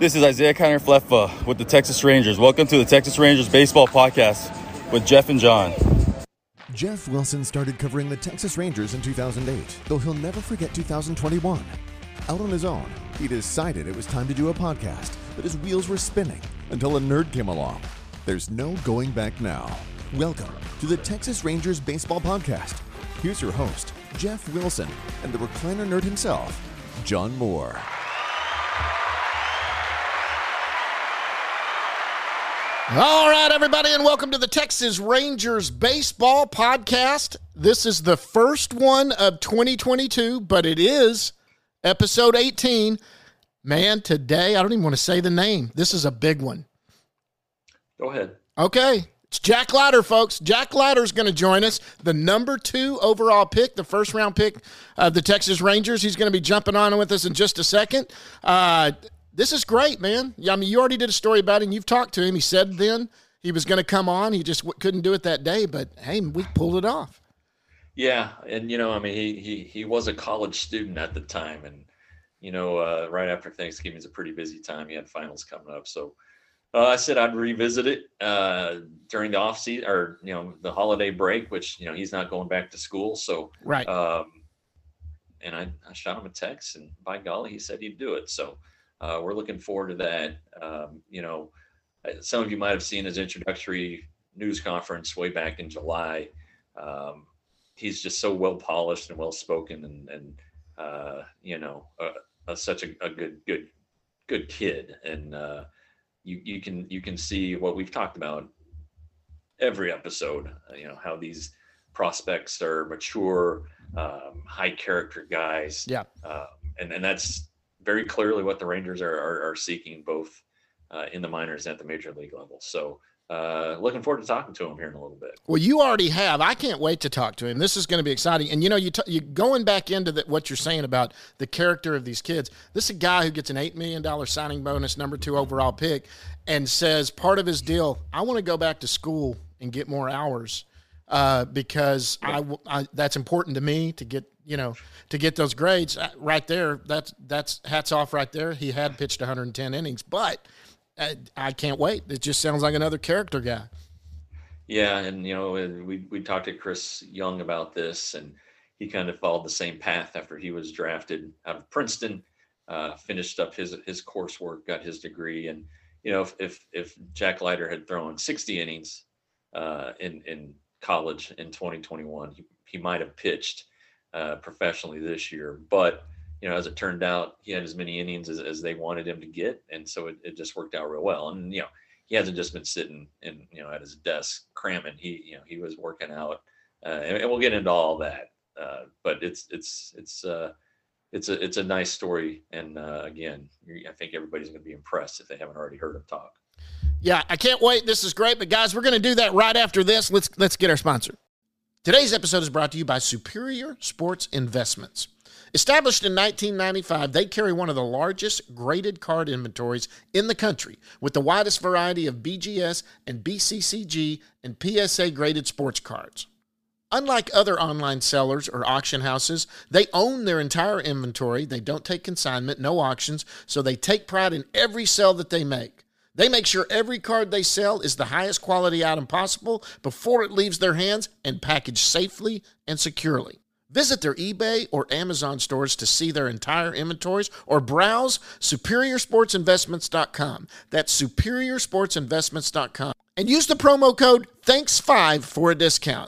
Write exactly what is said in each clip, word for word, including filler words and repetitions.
This is Isaiah Kiner Fleffa with the Texas Rangers. Welcome to the Texas Rangers Baseball Podcast with Jeff and John. Jeff Wilson started covering the Texas Rangers in two thousand eight, though he'll never forget two thousand twenty-one. Out on his own, he decided it was time to do a podcast, but his wheels were spinning until a nerd came along. There's no going back now. Welcome to the Texas Rangers Baseball Podcast. Here's your host, Jeff Wilson, and the recliner nerd himself, John Moore. All right, everybody, and welcome to the Texas Rangers Baseball Podcast. This is the first one of twenty twenty-two, but it is episode eighteen. Man, today, I don't even want to say the name. This is a big one. Go ahead. Okay. It's Jack Leiter, folks. Jack Leiter is going to join us, the number two overall pick, the first round pick of the Texas Rangers. He's going to be jumping on with us in just a second. Uh, this is great, man. I mean, you already did a story about him. You've talked to him. He said then he was going to come on. He just w- couldn't do it that day, but hey, we pulled it off. Yeah, and you know, I mean, he he he was a college student at the time, and you know, uh, right after Thanksgiving is a pretty busy time. He had finals coming up, so. Uh, I said I'd revisit it uh, during the off season or, you know, the holiday break, which, you know, he's not going back to school. So, right. Um, and I, I shot him a text and by golly, he said he'd do it. So uh, we're looking forward to that. Um, you know, some of you might've seen his introductory news conference way back in July. Um, he's just so well polished and well spoken and, and uh, you know, uh, uh, such a, a good, good, good kid. And, uh, You you can you can see what we've talked about every episode. You know how these prospects are mature, um, high character guys. Yeah, uh, and and that's very clearly what the Rangers are are, are seeking, both uh, in the minors and at the major league level. So. Uh, looking forward to talking to him here in a little bit. Well, you already have. I can't wait to talk to him. This is going to be exciting. And, you know, you t- you going back into the, what you're saying about the character of these kids. This is a guy who gets an eight million dollars signing bonus, number two overall pick, and says part of his deal, I want to go back to school and get more hours uh, because I, I that's important to me to get, you know, to get those grades right there. That's, that's hats off right there. He had pitched one hundred ten innings, but – I, I can't wait. It just sounds like another character guy. Yeah, and you know, we we talked to Chris Young about this, and he kind of followed the same path after he was drafted out of Princeton, uh, finished up his his coursework, got his degree, and you know, if if, if Jack Leiter had thrown sixty innings uh, in in college in twenty twenty-one, he, he might have pitched uh, professionally this year, but you know, as it turned out, he had as many innings as, as they wanted him to get. And so it, it just worked out real well. And, you know, he hasn't just been sitting in, you know, at his desk cramming. He, you know, he was working out uh, and, and we'll get into all that. Uh, but it's, it's, it's, uh, it's a, it's a nice story. And uh, again, I think everybody's going to be impressed if they haven't already heard him talk. Yeah, I can't wait. This is great. But guys, we're going to do that right after this. Let's, let's get our sponsor. Today's episode is brought to you by Superior Sports Investments. Established in nineteen ninety-five, they carry one of the largest graded card inventories in the country with the widest variety of B G S and B C C G and P S A graded sports cards. Unlike other online sellers or auction houses, they own their entire inventory. They don't take consignment, no auctions, so they take pride in every sale that they make. They make sure every card they sell is the highest quality item possible before it leaves their hands and packaged safely and securely. Visit their eBay or Amazon stores to see their entire inventories or browse superior sports investments dot com. That's superior sports investments dot com. And use the promo code thanks five for a discount.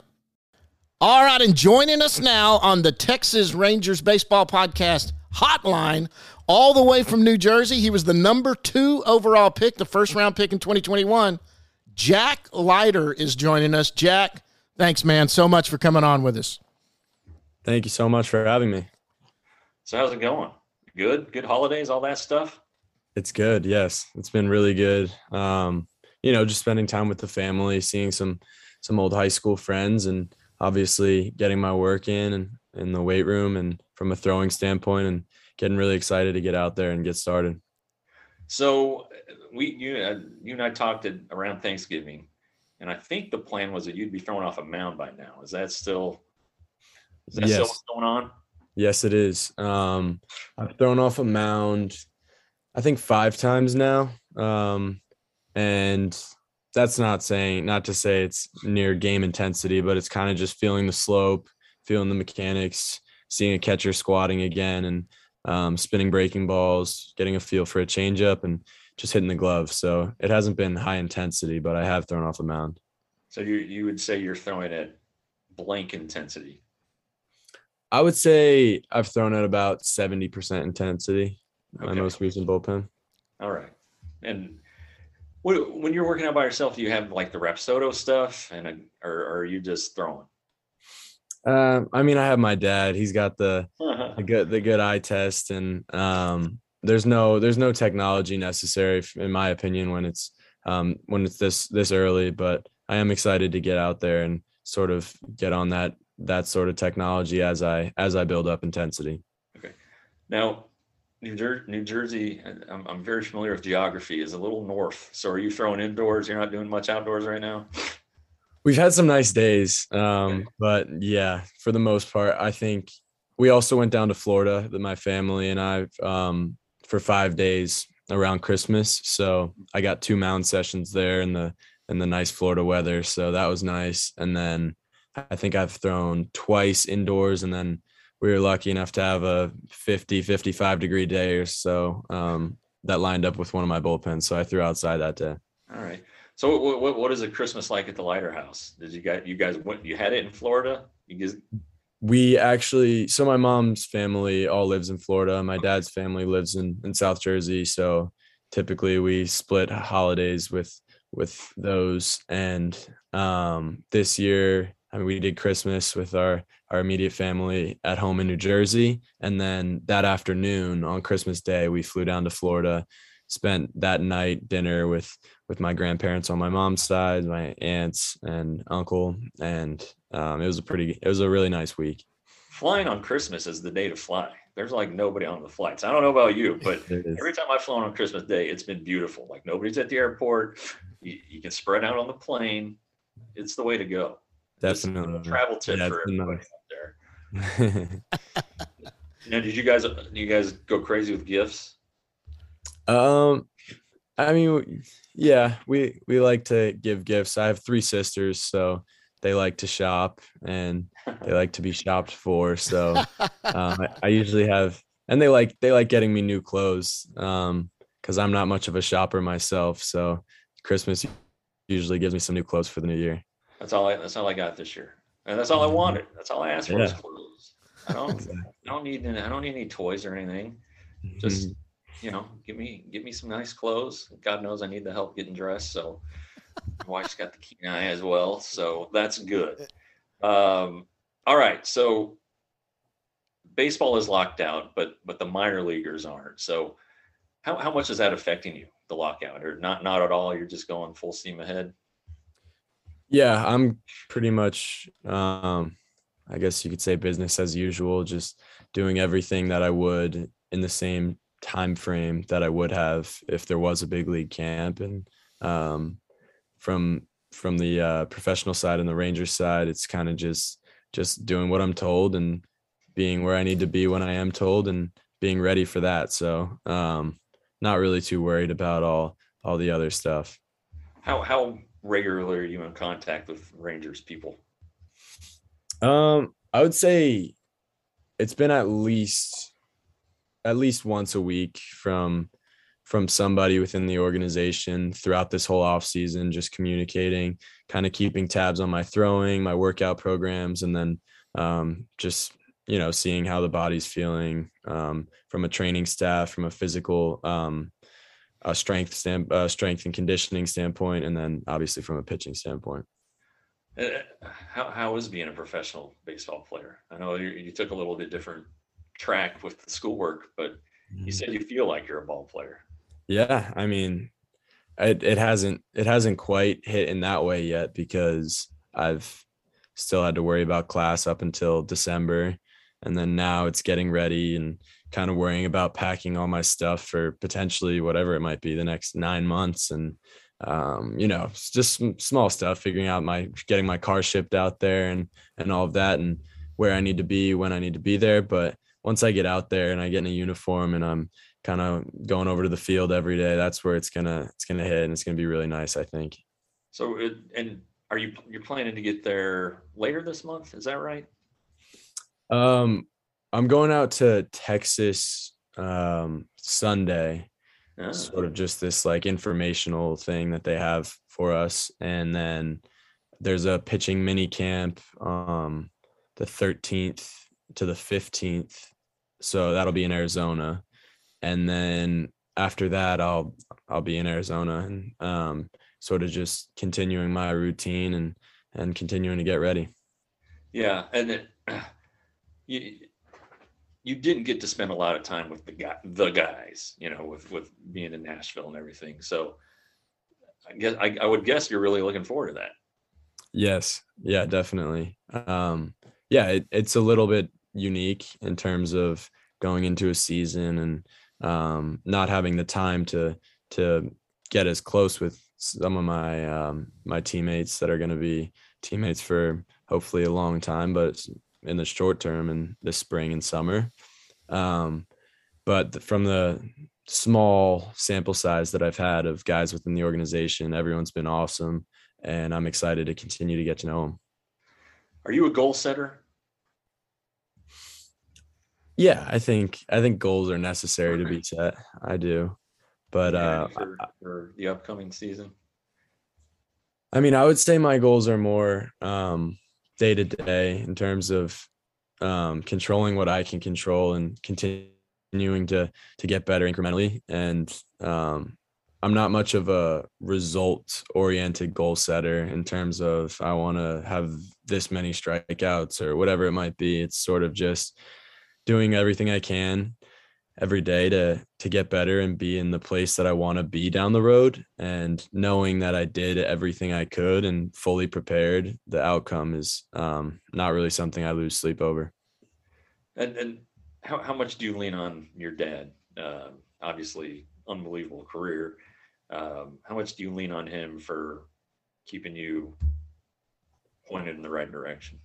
All right, and joining us now on the Texas Rangers Baseball Podcast hotline, all the way from New Jersey, he was the number two overall pick, the first round pick in twenty twenty-one. Jack Leiter is joining us. Jack, thanks, man, so much for coming on with us. Thank you so much for having me. So how's it going? Good? Good holidays, all that stuff? It's good. Yes. It's been really good. Um, you know, just spending time with the family, seeing some, some old high school friends, and obviously getting my work in and in the weight room and from a throwing standpoint, and getting really excited to get out there and get started. So we, you, uh, you and I talked at, around Thanksgiving, and I think the plan was that you'd be thrown off a mound by now. Is that still, is that yes. still what's going on? Yes, it is. Um, I've thrown off a mound. I think five times now. Um, and that's not saying, not to say it's near game intensity, but it's kind of just feeling the slope, feeling the mechanics, seeing a catcher squatting again, and um, spinning breaking balls, getting a feel for a changeup, and just hitting the glove. So it hasn't been high intensity, but I have thrown off the mound. So you you would say you're throwing at blank intensity? I would say I've thrown at about seventy percent intensity, my Okay. most recent bullpen. All right. And what, when you're working out by yourself, do you have like the Rapsodo stuff, and a, or, or are you just throwing? Um, I mean, I have my dad. He's got the the good the good eye test, and um, there's no there's no technology necessary, in my opinion, when it's um, when it's this this early. But I am excited to get out there and sort of get on that that sort of technology as I as I build up intensity. Okay. Now, New Jersey, New Jersey, I'm, I'm very familiar with geography, is a little north. So are you throwing indoors? You're not doing much outdoors right now? We've had some nice days, um, Okay. but yeah, for the most part, I think we also went down to Florida, my family and I, um, for five days around Christmas. So I got two mound sessions there in the in the nice Florida weather. So that was nice. And then I think I've thrown twice indoors, and then we were lucky enough to have a fifty, fifty-five degree day or so um, that lined up with one of my bullpens. So I threw outside that day. All right. So what, what, what is a Christmas like at the Lighter House? Did you guys, you guys went, you had it in Florida? You guys, We actually, so my mom's family all lives in Florida. My dad's family lives in, in South Jersey. So typically we split holidays with, with those. And um, this year, I mean, we did Christmas with our, our immediate family at home in New Jersey. And then that afternoon on Christmas Day, we flew down to Florida, spent that night dinner with, with my grandparents on my mom's side, my aunts and uncle. And um, it was a pretty, it was a really nice week. flying on Christmas is the day to fly. There's like nobody on the flights. I don't know about you, but every time I've flown on Christmas Day, it's been beautiful. Like nobody's at the airport. You, you can spread out on the plane. It's the way to go. Definitely. Travel tip Yeah, for it's been everybody nice. out there. Now, did you guys, you guys go crazy with gifts? Um, I mean, yeah, we we like to give gifts. I have three sisters, so they like to shop and they like to be shopped for. So um, I, I usually have, and they like they like getting me new clothes um, because I'm not much of a shopper myself. So Christmas usually gives me some new clothes for the new year. That's all I, that's all I got this year. And that's all I wanted. That's all I asked for was Yeah. clothes. I don't, I don't need, I don't need any toys or anything. Just, you know, give me, give me some nice clothes. God knows I need the help getting dressed. So my wife's got the keen eye as well. So that's good. Um, all right. So baseball is locked out, but, but the minor leaguers aren't. So how, how much is that affecting you, the lockout, or not, not at all? You're just going full steam ahead. Yeah, I'm pretty much, um, I guess you could say business as usual, just doing everything that I would in the same time frame that I would have if there was a big league camp. And um, from from the uh, professional side and the Rangers side, it's kind of just just doing what I'm told and being where I need to be when I am told and being ready for that. So um, not really too worried about all all the other stuff. How how regularly are you in contact with Rangers people? Um, I would say it's been at least at least once a week from from somebody within the organization throughout this whole off season, just communicating, kind of keeping tabs on my throwing, my workout programs, and then um, just, you know, seeing how the body's feeling um, from a training staff, from a physical um, a strength stand, uh, strength and conditioning standpoint, and then obviously from a pitching standpoint. Uh, How how is being a professional baseball player? I know you, you took a little bit different track with the schoolwork, but you said you feel like you're a ball player. Yeah, I mean, it it hasn't it hasn't quite hit in that way yet because I've still had to worry about class up until December, and then now it's getting ready and kind of worrying about packing all my stuff for potentially whatever it might be the next nine months and um you know, it's just some small stuff, figuring out my getting my car shipped out there and and all of that and where I need to be when I need to be there. But once I get out there and I get in a uniform and I'm kind of going over to the field every day, that's where it's gonna it's gonna hit, and it's gonna be really nice, I think. So, it, and are you you're planning to get there later this month? Is that right? Um, I'm going out to Texas um, Sunday, Ah. sort of just this like informational thing that they have for us, and then there's a pitching mini camp um, the thirteenth to the fifteenth, so that'll be in Arizona, and then after that, I'll I'll be in Arizona and um, sort of just continuing my routine and and continuing to get ready. Yeah, and it, you you didn't get to spend a lot of time with the guy, the guys, you know, with with being in Nashville and everything. So I guess I, I would guess you're really looking forward to that. Yes, yeah, definitely. Um, yeah, it, it's a little bit unique in terms of going into a season and um, not having the time to to get as close with some of my um, my teammates that are going to be teammates for hopefully a long time, but in the short term and this spring and summer. Um, but from the small sample size that I've had of guys within the organization, everyone's been awesome, and I'm excited to continue to get to know them. Are you a goal setter? Yeah, I think I think goals are necessary to be set. I do, but Yeah, uh, for, for the upcoming season. I mean, I would say my goals are more um, day to day in terms of um, controlling what I can control and continuing to to get better incrementally. And um, I'm not much of a result oriented goal setter in terms of I want to have this many strikeouts or whatever it might be. It's sort of just doing everything I can every day to to get better and be in the place that I want to be down the road, and knowing that I did everything I could and fully prepared, the outcome is um, not really something I lose sleep over. And and how how much do you lean on your dad? Uh, obviously, unbelievable career. Um, how much do you lean on him for keeping you pointed in the right direction?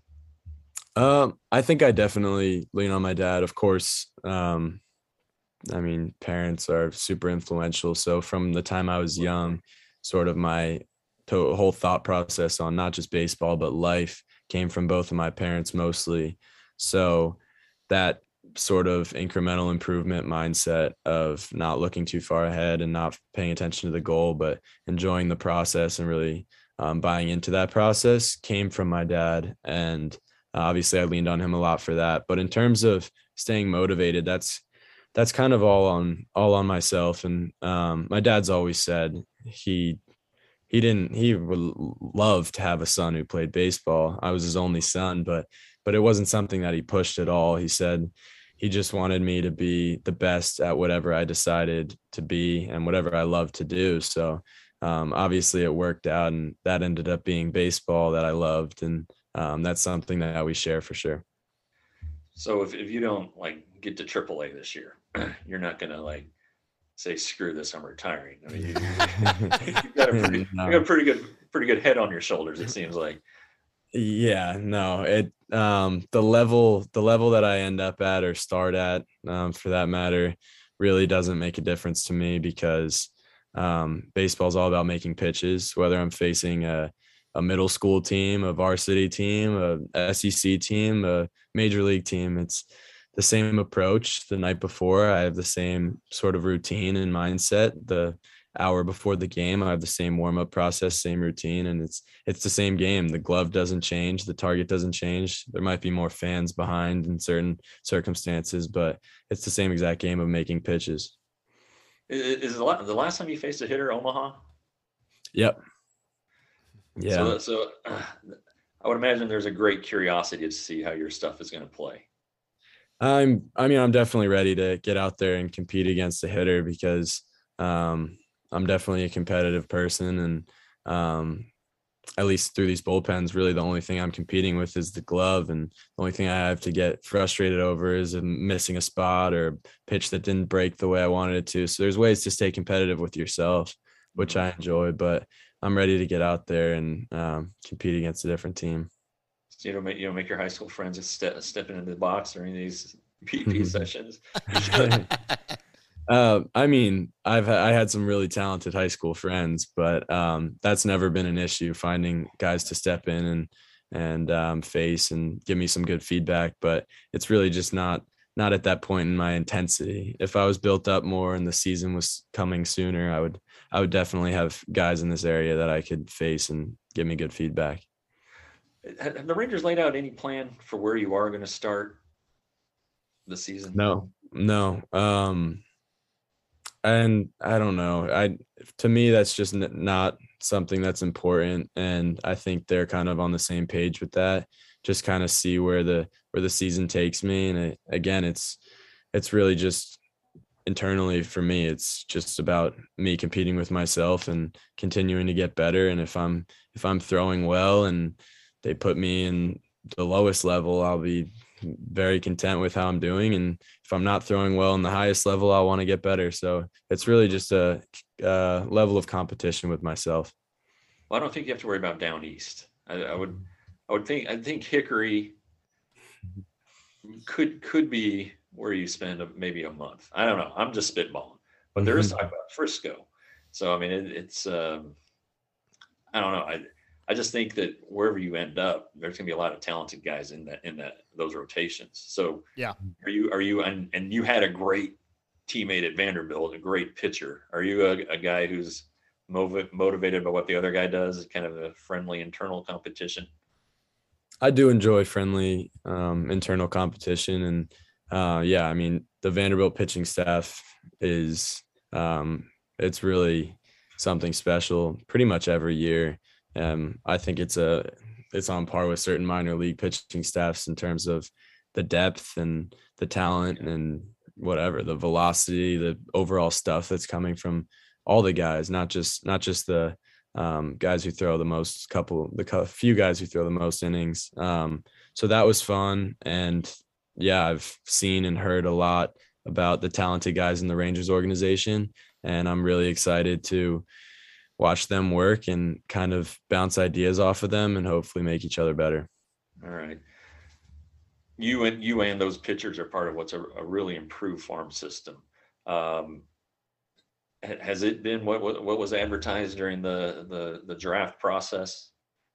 Um, I think I definitely lean on my dad. Of course, um, I mean, parents are super influential. So from the time I was young, sort of my to- whole thought process on not just baseball, but life came from both of my parents mostly. So that sort of incremental improvement mindset of not looking too far ahead and not paying attention to the goal, but enjoying the process and really um, buying into that process came from my dad. And obviously I leaned on him a lot for that. But in terms of staying motivated, that's that's kind of all on all on myself. And um, my dad's always said he he didn't he would love to have a son who played baseball. I was his only son, but but it wasn't something that he pushed at all. He said he just wanted me to be the best at whatever I decided to be and whatever I love to do. So um, obviously it worked out, and that ended up being baseball that I loved, and um, that's something that we share for sure. So if, if you don't like get to triple A this year, you're not going to like say, screw this, I'm retiring. I mean, you, you've got a pretty, No. you got a pretty good, pretty good head on your shoulders. It seems like. Yeah, no, it, um, the level, the level that I end up at or start at, um, for that matter, really doesn't make a difference to me, because, um, baseball is all about making pitches, whether I'm facing a, a middle school team, a varsity team, a S E C team, a major league team. It's the same approach. The night before, I have the same sort of routine and mindset. The hour before the game, I have the same warm-up process, same routine, and it's it's the same game. The glove doesn't change, the target doesn't change. There might be more fans behind in certain circumstances, but it's the same exact game of making pitches. Is the last time you faced a hitter Omaha? Yep. Yeah. So, so uh, I would imagine there's a great curiosity to see how your stuff is going to play. I'm, I mean, I'm definitely ready to get out there and compete against a hitter, because um, I'm definitely a competitive person. And um, at least through these bullpens, really the only thing I'm competing with is the glove. And the only thing I have to get frustrated over is missing a spot or a pitch that didn't break the way I wanted it to. So there's ways to stay competitive with yourself, which I enjoy, but I'm ready to get out there and um, compete against a different team. So you know, make, you know, make your high school friends step, stepping into the box during these P P sessions. You should. Uh, I mean, I've ha- I had some really talented high school friends, but um, that's never been an issue. Finding guys to step in and and um, face and give me some good feedback, but it's really just not not at that point in my intensity. If I was built up more and the season was coming sooner, I would I would definitely have guys in this area that I could face and give me good feedback. Have the Rangers laid out any plan for where you are going to start the season? No, no. Um, and I don't know. I to me that's just n- not something that's important, and I think they're kind of on the same page with that. Just kind of see where the where the season takes me, and it, again, it's it's really just internally for me. It's just about me competing with myself and continuing to get better. And if I'm if I'm throwing well and they put me in the lowest level, I'll be very content with how I'm doing. And if I'm not throwing well in the highest level, I want to get better. So it's really just a, a level of competition with myself. Well, I don't think you have to worry about down east. I, I would, I would think, I think Hickory could could be where you spend a, maybe a month. I don't know. I'm just spitballing, but there is talk about Frisco. So I mean, it, it's um, I don't know. I I just think that wherever you end up, there's going to be a lot of talented guys in that in that those rotations. So Yeah. are you are you and and you had a great teammate at Vanderbilt, a great pitcher. Are you a, a guy who's motiv- motivated by what the other guy does? Kind of a friendly internal competition. I do enjoy friendly um, internal competition, and uh, yeah, I mean the Vanderbilt pitching staff is um, it's really something special. Pretty much every year, um, I think it's a it's on par with certain minor league pitching staffs in terms of the depth and the talent and whatever the velocity, the overall stuff that's coming from all the guys, not just not just the um, guys who throw the most couple, the few guys who throw the most innings. Um, so that was fun. And yeah, I've seen and heard a lot about the talented guys in the Rangers organization. And I'm really excited to watch them work and kind of bounce ideas off of them and hopefully make each other better. All right. You and you and those pitchers are part of what's a, a really improved farm system. Um, Has it been what, what what was advertised during the the the draft process?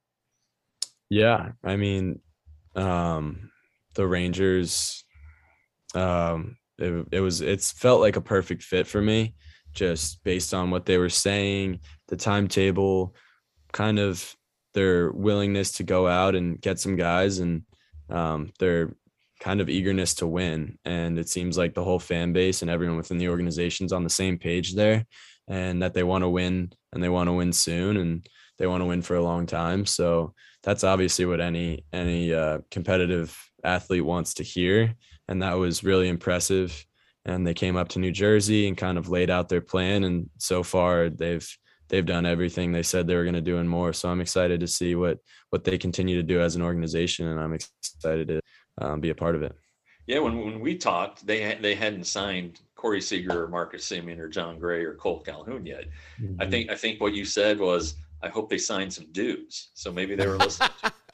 Yeah, I mean, um, the Rangers, um, it, it was it's felt like a perfect fit for me, just based on what they were saying, the timetable, kind of their willingness to go out and get some guys, and um, their kind of eagerness to win. And it seems like the whole fan base and everyone within the organization's on the same page there, and that they want to win and they want to win soon and they want to win for a long time. So that's obviously what any, any uh, competitive athlete wants to hear. And that was really impressive. And they came up to New Jersey and kind of laid out their plan. And so far they've, they've done everything they said they were going to do and more. So I'm excited to see what, what they continue to do as an organization. And I'm excited to Um, be a part of it. Yeah, when when we talked, they had, they hadn't signed Corey Seager or Marcus Semien or John Gray or Cole Calhoun yet. Mm-hmm. I think I think what you said was, I hope they signed some dudes. So maybe they were listening.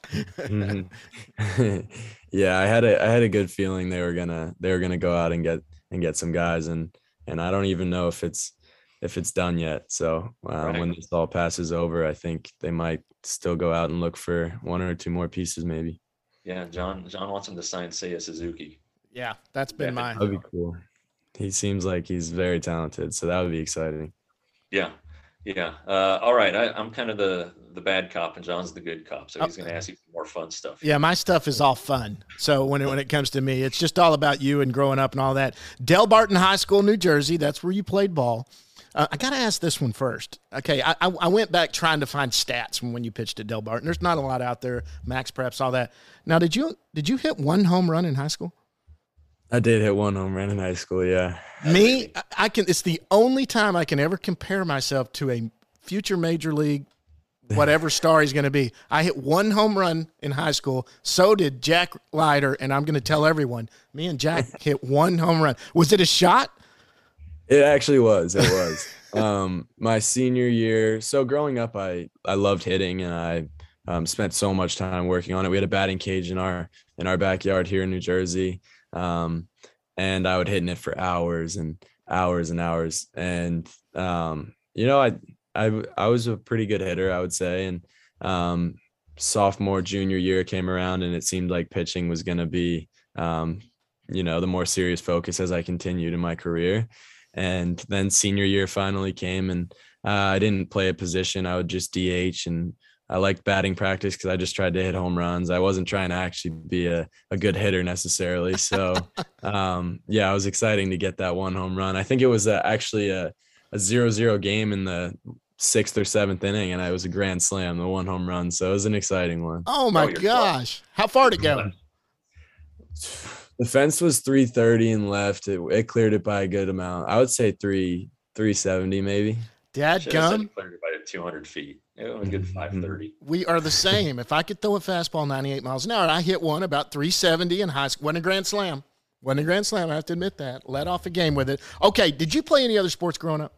mm-hmm. Yeah, I had a I had a good feeling they were gonna they were gonna go out and get and get some guys, and and I don't even know if it's if it's done yet. So uh, right. When this all passes over, I think they might still go out and look for one or two more pieces, maybe. Yeah, John. John wants him to sign Seiya Suzuki. Yeah, that's been yeah, mine. That'd be cool. He seems like he's very talented, so that would be exciting. Yeah, yeah. Uh, all right, I, I'm kind of the the bad cop, and John's the good cop, so he's oh. going to ask you more fun stuff. Yeah, my stuff is all fun. So when it, when it comes to me, it's just all about you and growing up and all that. Del Barton High School, New Jersey. That's where you played ball. Uh, I got to ask this one first. Okay, I, I I went back trying to find stats from when you pitched at Del Barton. There's not a lot out there, max preps, all that. Now, did you did you hit one home run in high school? I did hit one home run in high school, yeah. Me, I can. It's the only time I can ever compare myself to a future major league, whatever star he's going to be. I hit one home run in high school. So did Jack Leiter, and I'm going to tell everyone, me and Jack hit one home run. Was it a shot? It actually was. It was. um, my senior year. So growing up, I, I loved hitting, and I um, spent so much time working on it. We had a batting cage in our in our backyard here in New Jersey, um, and I would hit in it for hours. And hours and hours. And, um, you know, I, I, I was a pretty good hitter, I would say. And, um, sophomore, junior year came around and it seemed like pitching was going to be, um, you know, the more serious focus as I continued in my career. And then senior year finally came and uh, I didn't play a position. I would just D H, and I liked batting practice because I just tried to hit home runs. I wasn't trying to actually be a, a good hitter necessarily. So, um, yeah, it was exciting to get that one home run. I think it was a, actually a, a zero zero game in the sixth or seventh inning, and I was a grand slam, the one home run. So it was an exciting one. Oh, my Oh, you're gosh. How far did it go? The fence was three thirty and left. It, it cleared it by a good amount. I would say three, three seventy maybe. Dad Should have said gum. he cleared it by two hundred feet. It was a good five thirty. We are the same. If I could throw a fastball ninety-eight miles an hour, I hit one about three seventy in high school. Wasn't a grand slam. Wasn't a grand slam. I have to admit that. Let off a game with it. Okay. Did you play any other sports growing up?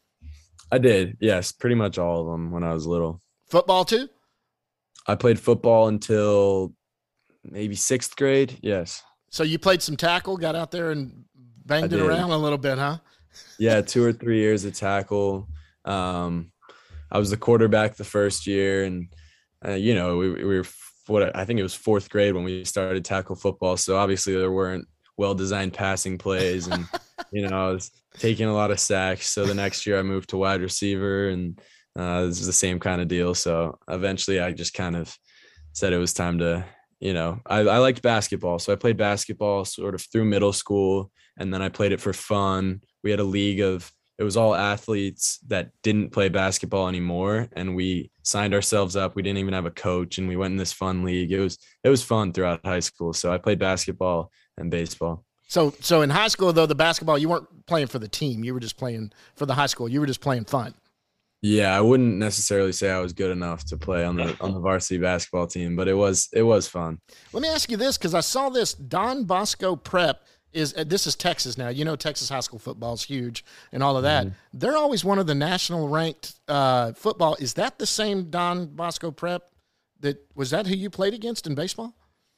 I did. Yes. Pretty much all of them when I was little. Football too? I played football until maybe sixth grade. Yes. So you played some tackle, got out there and banged I it did. around a little bit, huh? Yeah. Two or three years of tackle. Um, I was the quarterback the first year, and, uh, you know, we, we were, what I think it was fourth grade when we started tackle football. So obviously there weren't well-designed passing plays, and, you know, I was taking a lot of sacks. So the next year I moved to wide receiver, and uh, this is the same kind of deal. So eventually I just kind of said it was time to, you know, I, I liked basketball. So I played basketball sort of through middle school, and then I played it for fun. We had a league of, it was all athletes that didn't play basketball anymore. And we signed ourselves up. We didn't even have a coach, and we went in this fun league. It was, it was fun throughout high school. So I played basketball and baseball. So, so in high school, though, the basketball, you weren't playing for the team. You were just playing for the high school. You were just playing fun. Yeah, I wouldn't necessarily say I was good enough to play on the on the varsity basketball team, but it was it was fun. Let me ask you this, because I saw this. Don Bosco Prep is uh, this is Texas now. You know, Texas high school football is huge and all of that. Mm-hmm. They're always one of the national ranked uh, football. Is that the same Don Bosco Prep? That was that who you played against in baseball?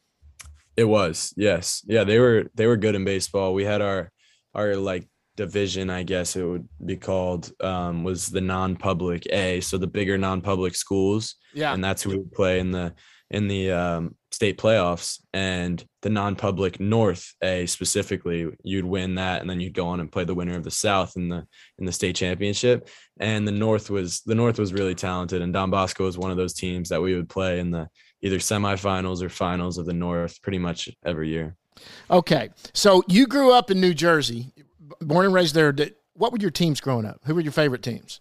It was, yes, yeah. They were they were good in baseball. We had our our like division, I guess it would be called, um, was the non-public A, so the bigger non-public schools. Yeah, and that's who we would play in the in the um, state playoffs. And the non-public North A specifically, you'd win that, and then you'd go on and play the winner of the South in the in the state championship. And the North was the North was really talented, and Don Bosco was one of those teams that we would play in the either semifinals or finals of the North pretty much every year. Okay, so you grew up in New Jersey, born and raised there. What were your teams growing up? Who were your favorite teams?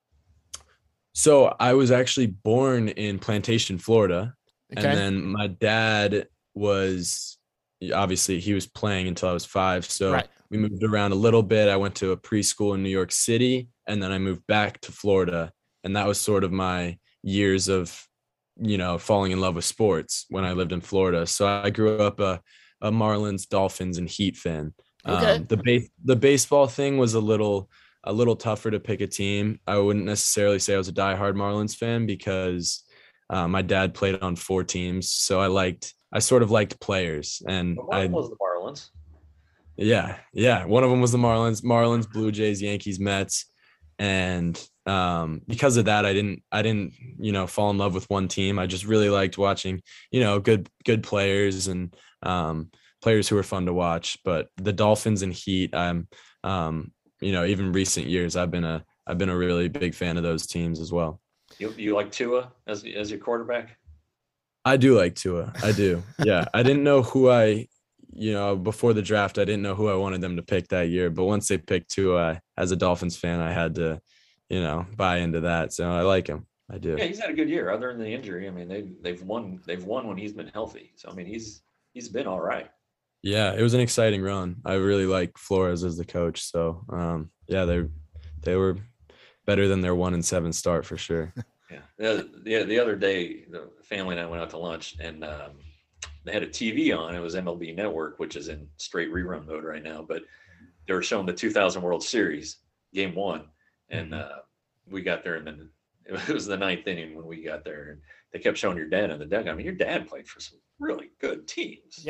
So I was actually born in Plantation, Florida. Okay. And then my dad was, obviously he was playing until I was five. So right. We moved around a little bit. I went to a preschool in New York City, and then I moved back to Florida. And that was sort of my years of, you know, falling in love with sports when I lived in Florida. So I grew up a, a Marlins, Dolphins, and Heat fan. Okay. Um, the base, the baseball thing was a little, a little tougher to pick a team. I wouldn't necessarily say I was a diehard Marlins fan because uh, my dad played on four teams. So I liked, I sort of liked players, and But one I was the Marlins. Yeah. Yeah. One of them was the Marlins, Marlins, Blue Jays, Yankees, Mets. And um, because of that, I didn't, I didn't, you know, fall in love with one team. I just really liked watching, you know, good, good players and um, players who were fun to watch. But the Dolphins and Heat, I'm, um, you know, even recent years, I've been a, I've been a really big fan of those teams as well. You you like Tua as as your quarterback? I do like Tua. I do. Yeah. I didn't know who I, you know, before the draft, I didn't know who I wanted them to pick that year. But once they picked Tua, as a Dolphins fan, I had to, you know, buy into that. So I like him. I do. Yeah, he's had a good year. Other than the injury, I mean, they they've won. They've won when he's been healthy. So I mean, he's he's been all right. Yeah, it was an exciting run. I really like Flores as the coach. So um, yeah, they they were better than their one and seven start for sure. Yeah. The, the the other day, the family and I went out to lunch, and um, they had a T V on. It was M L B Network, which is in straight rerun mode right now. But they were showing the two thousand World Series Game One, and Mm-hmm. uh, we got there, and then it was the ninth inning when we got there, and they kept showing your dad in the dugout. I mean, your dad played for some really good teams. Yeah.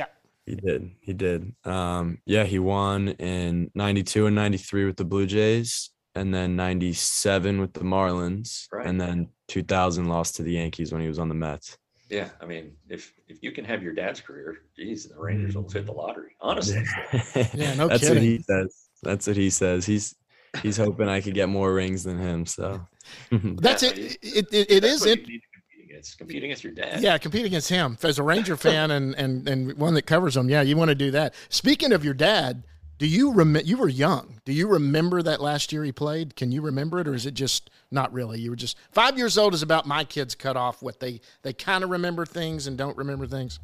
He did. He did. Um, yeah, he won in ninety-two and ninety-three with the Blue Jays, and then ninety-seven with the Marlins, Right. and then two thousand lost to the Yankees when he was on the Mets. Yeah, I mean, if if you can have your dad's career, geez, the Rangers will hit the lottery. Honestly, Yeah, no That's kidding. what he says. That's what he says. He's he's hoping I could get more rings than him. So That's Yeah, it. I mean, It, it, it that's is what it. you need to compete against. Compete against your dad. Yeah, compete against him. As a Ranger fan and, and, and one that covers them, yeah, you want to do that. Speaking of your dad, do you remember? You were young. Do you remember that last year he played? Can you remember it, or is it just not really? You were just five years old. Is about my kids cut off what they they kind of remember things and don't remember things.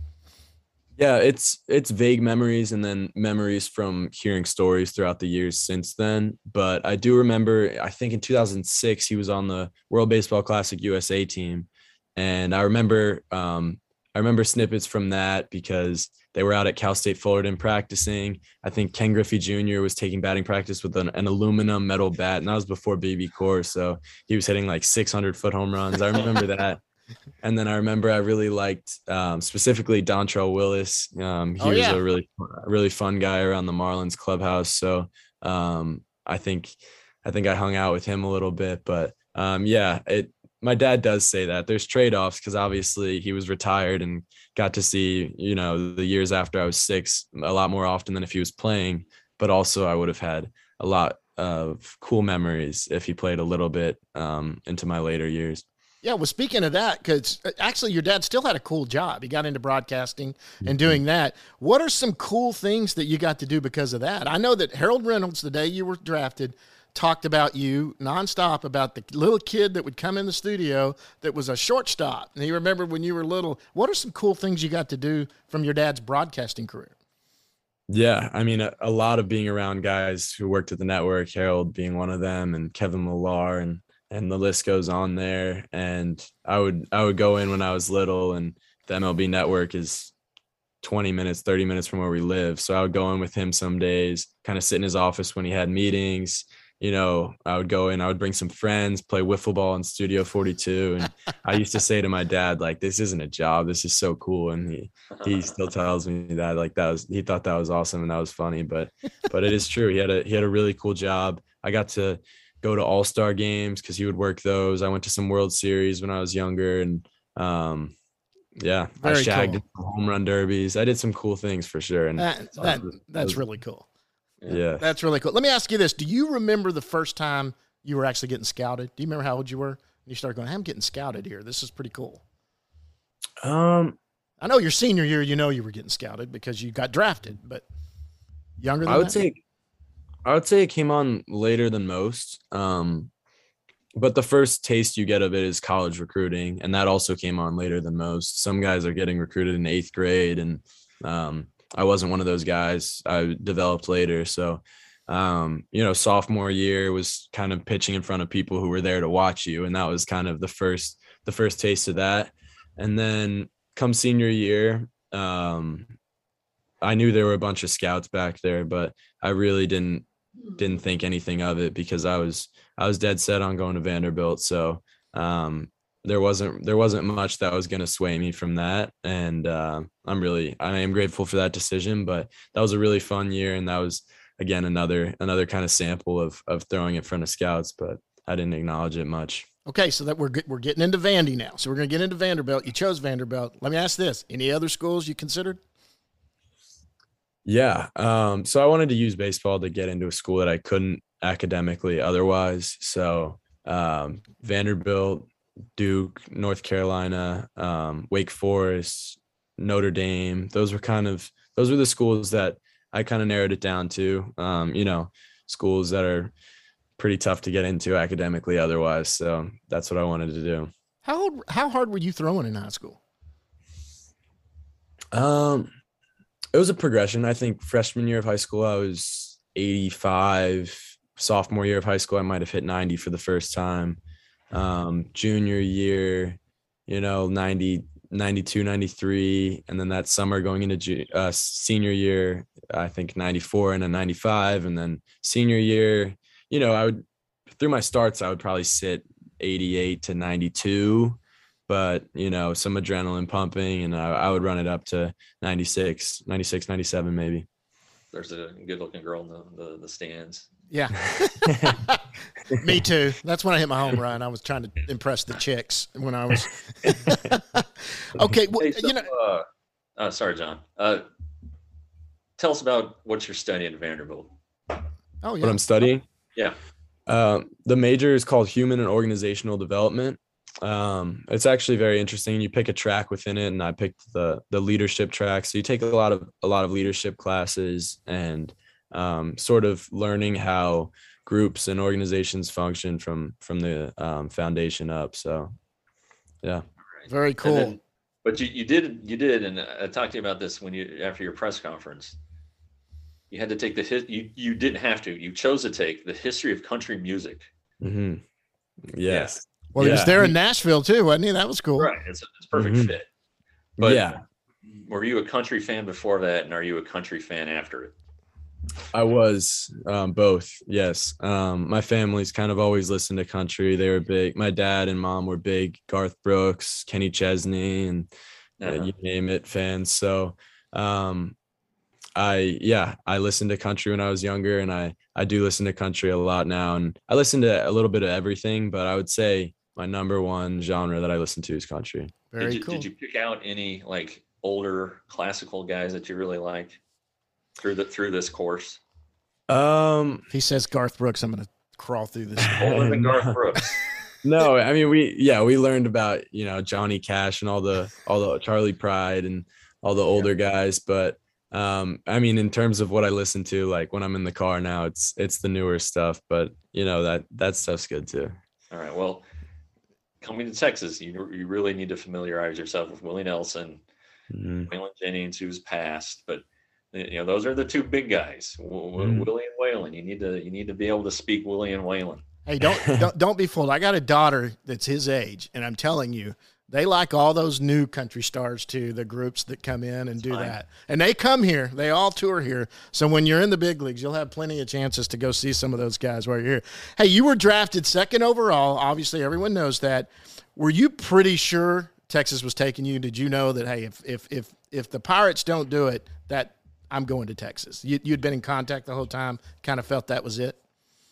yeah, it's it's vague memories and then memories from hearing stories throughout the years since then. But I do remember, I think in two thousand six, he was on the World Baseball Classic U S A team. And I remember um, I remember snippets from that because they were out at Cal State Fullerton practicing. I think Ken Griffey Junior was taking batting practice with an, an aluminum metal bat, and that was before B B Core. So he was hitting like six hundred foot home runs. I remember that. And then I remember I really liked um, specifically Dontrell Willis. Um, he Oh, was yeah. a really, really fun guy around the Marlins clubhouse. So um, I think, I think I hung out with him a little bit. But um, yeah, it. My dad does say that there's trade-offs because obviously he was retired and got to see, you know, the years after I was six a lot more often than if he was playing. But also I would have had a lot of cool memories if he played a little bit um, into my later years. Yeah, well, speaking of that, because actually your dad still had a cool job. He got into broadcasting and doing that. What are some cool things that you got to do because of that? I know that Harold Reynolds, the day you were drafted, talked about you nonstop about the little kid that would come in the studio that was a shortstop. And he remembered when you were little. What are some cool things you got to do from your dad's broadcasting career? Yeah, I mean, a, a lot of being around guys who worked at the network, Harold being one of them, and Kevin Millar, and and the list goes on there. And I would I would go in when I was little, and the M L B Network is twenty minutes, thirty minutes from where we live. So I would go in with him some days, kind of sit in his office when he had meetings. You know, I would go in, I would bring some friends, play wiffle ball in Studio forty-two. And I used to say to my dad, like, this isn't a job. This is so cool. And he, he still tells me that, like, that was, he thought that was awesome and that was funny, but, but it is true. He had a, he had a really cool job. I got to go to all-star games because he would work those. I went to some World Series when I was younger. And, um, yeah, Very I shagged cool. in some home run derbies. I did some cool things for sure. And That, so that, it was- it that's was- really cool. yeah. That's really cool. Let me ask you this. Do you remember the first time you were actually getting scouted? Do you remember how old you were? You started going, I'm getting scouted here. This is pretty cool. Um, I know your senior year, you know you were getting scouted because you got drafted, but younger than I would that? say, I would say it came on later than most. Um, but the first taste you get of it is college recruiting, and that also came on later than most. Some guys are getting recruited in eighth grade, and um, I wasn't one of those guys. I developed later, so um, you know, sophomore year was kind of pitching in front of people who were there to watch you, and that was kind of the first the first taste of that. And then come senior year, um, I knew there were a bunch of scouts back there, but I really didn't didn't think anything of it because I was I was dead set on going to Vanderbilt. So um, there wasn't there wasn't much that was going to sway me from that, and uh, I'm really I am grateful for that decision. But that was a really fun year, and that was again another another kind of sample of of throwing in front of scouts, but I didn't acknowledge it much. Okay, so that we're get- we're getting into Vandy now. So we're going to get into Vanderbilt. You chose Vanderbilt. Let me ask this: any other schools you considered? Yeah. Um, so I wanted to use baseball to get into a school that I couldn't academically otherwise. So um, Vanderbilt, Duke, North Carolina, um, Wake Forest, Notre Dame. Those were kind of those were the schools that I kind of narrowed it down to. Um, you know, schools that are pretty tough to get into academically otherwise. So that's what I wanted to do. How old, how hard were you throwing in high school? Um, it was a progression. I think freshman year of high school, I was eighty-five. Sophomore year of high school, I might have hit ninety for the first time. Um, junior year, you know, ninety, ninety-two, ninety-three. And then that summer going into ju- uh, senior year, I think ninety-four and a ninety-five. And then senior year, you know, I would, through my starts, I would probably sit eighty-eight to ninety-two. but, you know, some adrenaline pumping, and I, I would run it up to ninety-six, ninety-six, ninety-seven maybe. There's a good looking girl in the, the, the stands. Yeah. Me too. That's when I hit my home run. I was trying to impress the chicks when I was. Okay. Well, Hey, so, you know, uh, uh, sorry, John. Uh, tell us about what you're studying at Vanderbilt. oh, yeah. What I'm studying. Yeah. Uh, the major is called Human and Organizational Development. Um, it's actually very interesting. You pick a track within it, and I picked the the leadership track. So you take a lot of a lot of leadership classes and um, sort of learning how groups and organizations function from from the um, foundation up. So, yeah, Very cool. Then, but you, you did you did, and I talked to you about this when you after your press conference. You had to take the hit. You you didn't have to. You chose to take the history of country music. mm-hmm. Yes. Well, he was Yeah. there in Nashville too, wasn't he? That was cool. Right. It's a, it's a perfect Mhm. fit. But Yeah, were you a country fan before that, and are you a country fan after it? I was um, both. Yes. Um, my family's kind of always listened to country. They were big. My dad and mom were big Garth Brooks, Kenny Chesney, and uh, Uh-huh. you name it fans. So, um, I, yeah, I listened to country when I was younger, and I, I do listen to country a lot now. And I listen to a little bit of everything, but I would say my number one genre that I listen to is country. Very did you, cool. Did you pick out any like older classical guys that you really liked through the through this course? Um, If he says Garth Brooks, I'm going to crawl through this. Older than Garth Brooks. no, I mean, we, yeah, we learned about, you know, Johnny Cash and all the, all the Charlie Pride and all the older guys. But, um, I mean, in terms of what I listen to, like when I'm in the car now, it's, it's the newer stuff, but you know, that, that stuff's good too. All right. Well, coming to Texas, you you really need to familiarize yourself with Willie Nelson, Mhm. Waylon Jennings, who's passed, but you know those are the two big guys, w- w- Mhm. Willie and Waylon. You need to you need to be able to speak Willie and Waylon. Hey, don't, don't don't be fooled. I got a daughter that's his age, and I'm telling you, they like all those new country stars too. The groups that come in and do fine. that, and they come here. They all tour here. So when you're in the big leagues, you'll have plenty of chances to go see some of those guys while you're here. Hey, you were drafted second overall. Obviously, everyone knows that. Were you pretty sure Texas was taking you? Did you know that? Hey, if if if if the Pirates don't do it, that I'm going to Texas. You, you'd been in contact the whole time. Kind of felt that was it.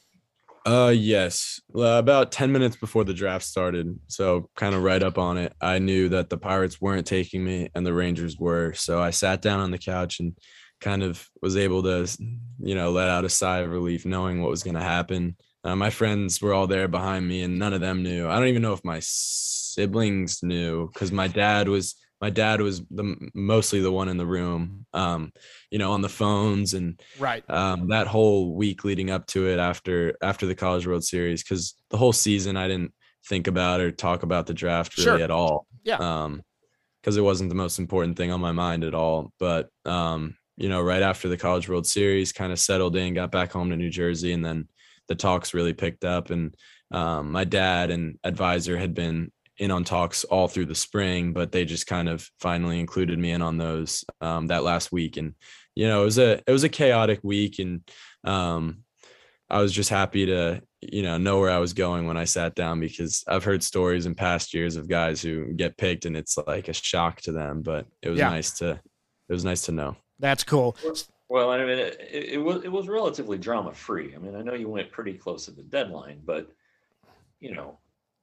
Uh, yes. Uh, about ten minutes before the draft started, so kind of right up on it, I knew that the Pirates weren't taking me and the Rangers were. So I sat down on the couch and kind of was able to, you know, let out a sigh of relief knowing what was going to happen. Uh, my friends were all there behind me and none of them knew. I don't even know if my siblings knew because my dad was my dad was the mostly the one in the room, um, you know, on the phones and Right. um, that whole week leading up to it after after the College World Series, because the whole season I didn't think about or talk about the draft really Sure. at all. Yeah. Um, because it wasn't the most important thing on my mind at all. But um, you know, right after the College World Series, kind of settled in, got back home to New Jersey, and then the talks really picked up. And um, my dad and advisor had been in on talks all through the spring, but they just kind of finally included me in on those um, that last week. And you know, it was a it was a chaotic week, and um, I was just happy to you know know where I was going when I sat down, because I've heard stories in past years of guys who get picked and it's like a shock to them. But it was Yeah. nice to it was nice to know. That's cool. Well, I mean, it, it, it was it was relatively drama free. I mean, I know you went pretty close to the deadline, but you know,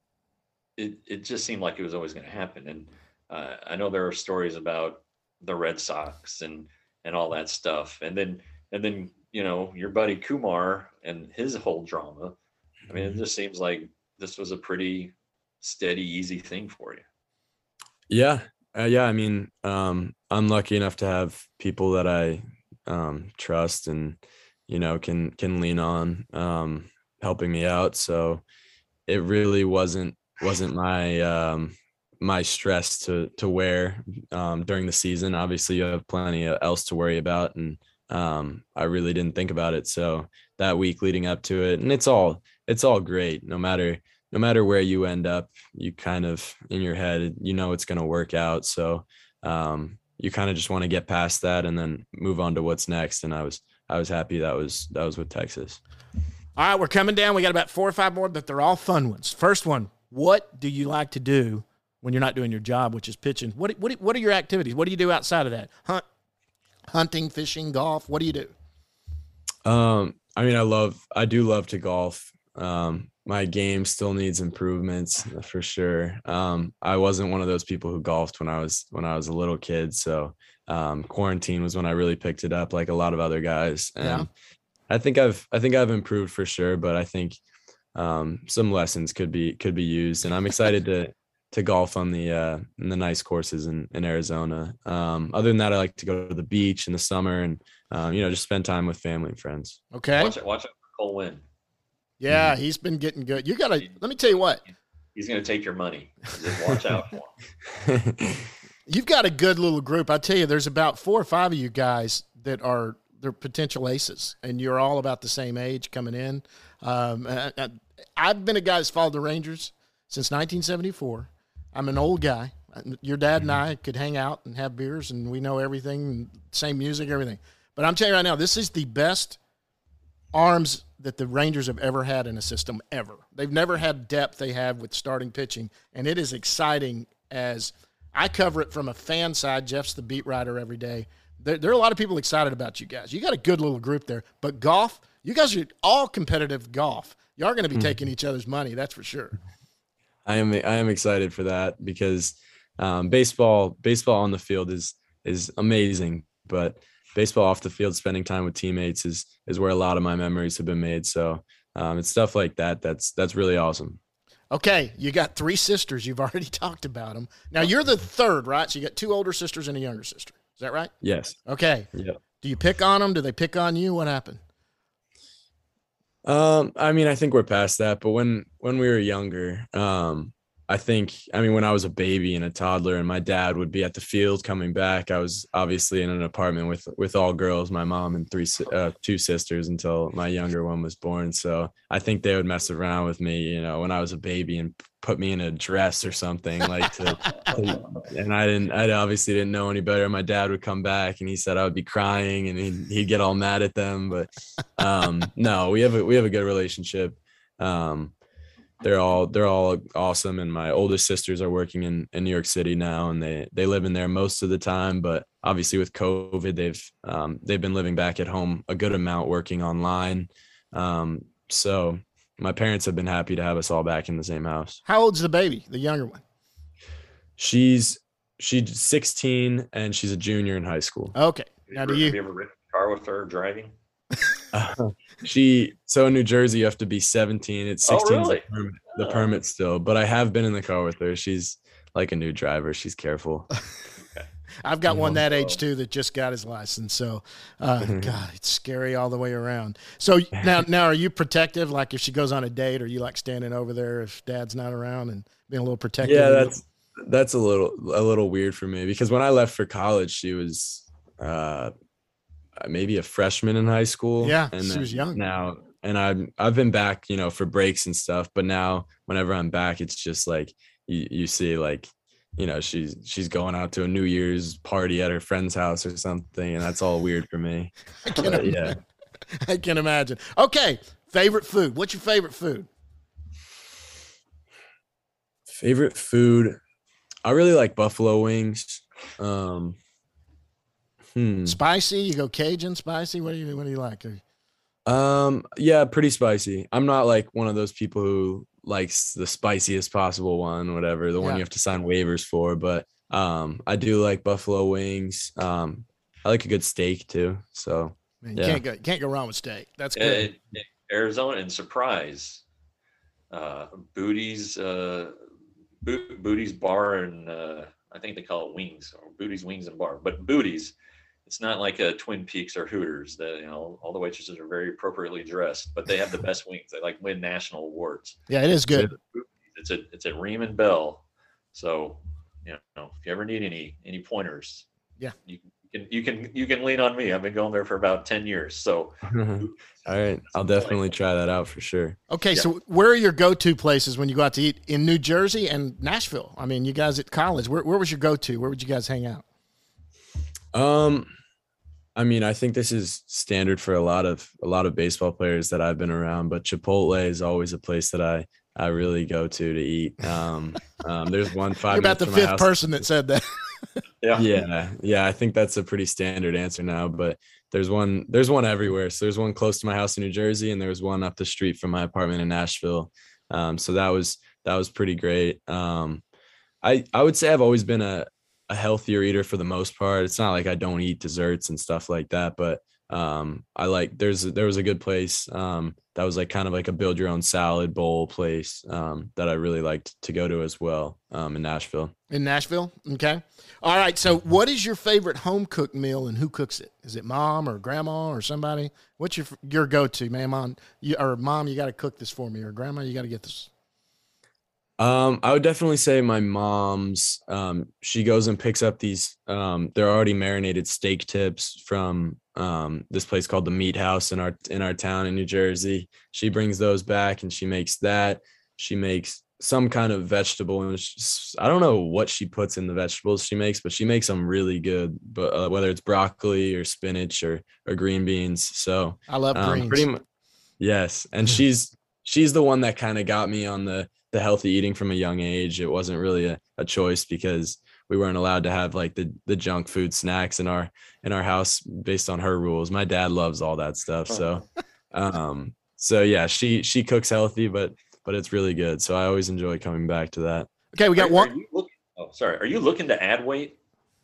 it it just seemed like it was always going to happen. And uh, I know there are stories about the Red Sox and and all that stuff, and then and then you know your buddy Kumar and his whole drama. I mean, it just seems like this was a pretty steady, easy thing for you. Yeah. Uh, yeah. I mean, um, I'm lucky enough to have people that I um, trust and, you know, can, can lean on um, helping me out. So it really wasn't, wasn't my, um, my stress to, to wear um, during the season. Obviously you have plenty else to worry about. And um, I really didn't think about it. So that week leading up to it, and it's all, it's all great. No matter, no matter where you end up, you kind of in your head, you know, it's going to work out. So um, you kind of just want to get past that and then move on to what's next. And I was, I was happy that was, that was with Texas. All right, we're coming down. We got about four or five more, but they're all fun ones. First one, what do you like to do when you're not doing your job, which is pitching. What what what are your activities? What do you do outside of that? Hunt, hunting, fishing, golf. What do you do? Um, I mean, I love, I do love to golf. Um, my game still needs improvements for sure. Um, I wasn't one of those people who golfed when I was, when I was a little kid. So, um, quarantine was when I really picked it up, like a lot of other guys. And Yeah. I think I've, I think I've improved for sure, but I think, um, some lessons could be, could be used. And I'm excited to, to golf on the, uh, in the nice courses in, in Arizona. Um, other than that, I like to go to the beach in the summer and, um, you know, just spend time with family and friends. Okay. Watch it. Watch it for Cole Winn. Yeah, he's been getting good. You got to let me tell you what. He's going to take your money. Just watch out for him. You've got a good little group. I tell you, there's about four or five of you guys that are they're potential aces, and you're all about the same age coming in. Um, I, I, I've been a guy that's followed the Rangers since nineteen seventy-four. I'm an old guy. Your dad and I could hang out and have beers, and we know everything, same music, everything. But I'm telling you right now, this is the best arms that the Rangers have ever had in a system ever. They've never had depth they have with starting pitching, and it is exciting as I cover it from a fan side. Jeff's the beat writer every day. There, there are a lot of people excited about you guys. You got a good little group there. But golf, you guys are all competitive golf. You are going to be taking each other's money, that's for sure. I am, I am excited for that because um, baseball, baseball on the field is, is amazing, but baseball off the field, spending time with teammates is, is where a lot of my memories have been made. So um, it's stuff like that. That's, that's really awesome. Okay. You got three sisters. You've already talked about them. Now you're the third, right? So you got two older sisters and a younger sister. Is that right? Yes. Okay. Yep. Do you pick on them? Do they pick on you? What happened? Um, I mean, I think we're past that, but when, when we were younger, um, I think, I mean, when I was a baby and a toddler and my dad would be at the field coming back, I was obviously in an apartment with, with all girls, my mom and three, uh, two sisters until my younger one was born. So I think they would mess around with me, you know, when I was a baby and put me in a dress or something like to, to and I didn't, I obviously didn't know any better. My dad would come back and he said I would be crying and he'd, he'd get all mad at them. But, um, no, we have a, we have a good relationship. Um, They're all they're all awesome, and my oldest sisters are working in, in New York City now, and they they live in there most of the time. But obviously, with COVID, they've um, they've been living back at home a good amount, working online. Um, so my parents have been happy to have us all back in the same house. How old's the baby, the younger one? She's she's sixteen, and she's a junior in high school. Okay. Now, do you? Have you ever ridden a car with her driving? Uh, she so in New Jersey you have to be seventeen. It's sixteen. Oh, really? the, permit, the Oh. permit still, but I have been in the car with her. She's like a new driver. She's careful. I've got one that age Oh. too that just got his license. So, uh, God, it's scary all the way around. So now, now, are you protective? Like if she goes on a date, are you like standing over there if Dad's not around and being a little protective? Yeah, that's that's a little a little weird for me because when I left for college, she was uh, maybe a freshman in high school. Yeah, and she then was young. now. And I've I've been back, you know, for breaks and stuff. But now, whenever I'm back, it's just like you, you see, like, you know, she's she's going out to a New Year's party at her friend's house or something, and that's all weird for me. I can, But, yeah. imagine. I can imagine. Okay, favorite food. What's your favorite food? Favorite food. I really like buffalo wings. Um, hmm. Spicy? You go Cajun, spicy? What do you What do you like? Um, yeah, pretty spicy. I'm not like one of those people who likes the spiciest possible one, whatever, the one Yeah. you have to sign waivers for. But um, I do like buffalo wings. Um, I like a good steak too. So Man, you Yeah. can't go can't go wrong with steak. That's Uh, good. Arizona and Surprise, uh, Booty's, uh, Bo- Booty's Bar, and uh, I think they call it Wings or Booty's Wings and Bar. But Booty's, it's not like a Twin Peaks or Hooters. That you know, all the waitresses are very appropriately dressed, but they have the best wings. They like win national awards. Yeah, it is good. It's a it's at Riemann Bell. So you know, if you ever need any any pointers, Yeah. you can you can you can lean on me. I've been going there for about ten years. So all right, I'll definitely try that out for sure. Okay, Yeah. so where are your go-to places when you go out to eat in New Jersey and Nashville? I mean, you guys at college, where, where was your go-to? Where would you guys hang out? Um, I mean, I think this is standard for a lot of a lot of baseball players that I've been around, but Chipotle is always a place that I I really go to to eat. Um, um, there's one five. You're about the minutes from my fifth house. person that said that. Yeah. Yeah, yeah. I think that's a pretty standard answer now. But there's one. There's one everywhere. So there's one close to my house in New Jersey, and there was one up the street from my apartment in Nashville. Um, so that was that was pretty great. Um, I I would say I've always been a a healthier eater for the most part. It's not like I don't eat desserts and stuff like that, but um, I like there's there was a good place um, that was like kind of like a build your own salad bowl place um, that I really liked to go to as well um, in Nashville. In Nashville? Okay. All right. So what is your favorite home cooked meal and who cooks it? Is it mom or grandma or somebody? What's your your go-to, man? Mom, you, or mom, you got to cook this for me, or grandma, you got to get this. Um, I would definitely say my mom's, um, she goes and picks up these, um, they're already marinated steak tips from, um, this place called the Meat House in our, in our town in New Jersey. She brings those back and she makes that. She makes some kind of vegetable, and she's, I don't know what she puts in the vegetables she makes, but she makes them really good, but uh, whether it's broccoli or spinach or, or green beans. So I love um, greens. pretty much, yes. And she's, she's the one that kind of got me on the, the healthy eating from a young age. It wasn't really a, a choice because we weren't allowed to have like the, the junk food snacks in our, in our house based on her rules. My dad loves all that stuff. So, um, so yeah, she, she cooks healthy, but, but it's really good. So I always enjoy coming back to that. Okay. We got Are- are one. you look- oh, sorry. Are you looking to add weight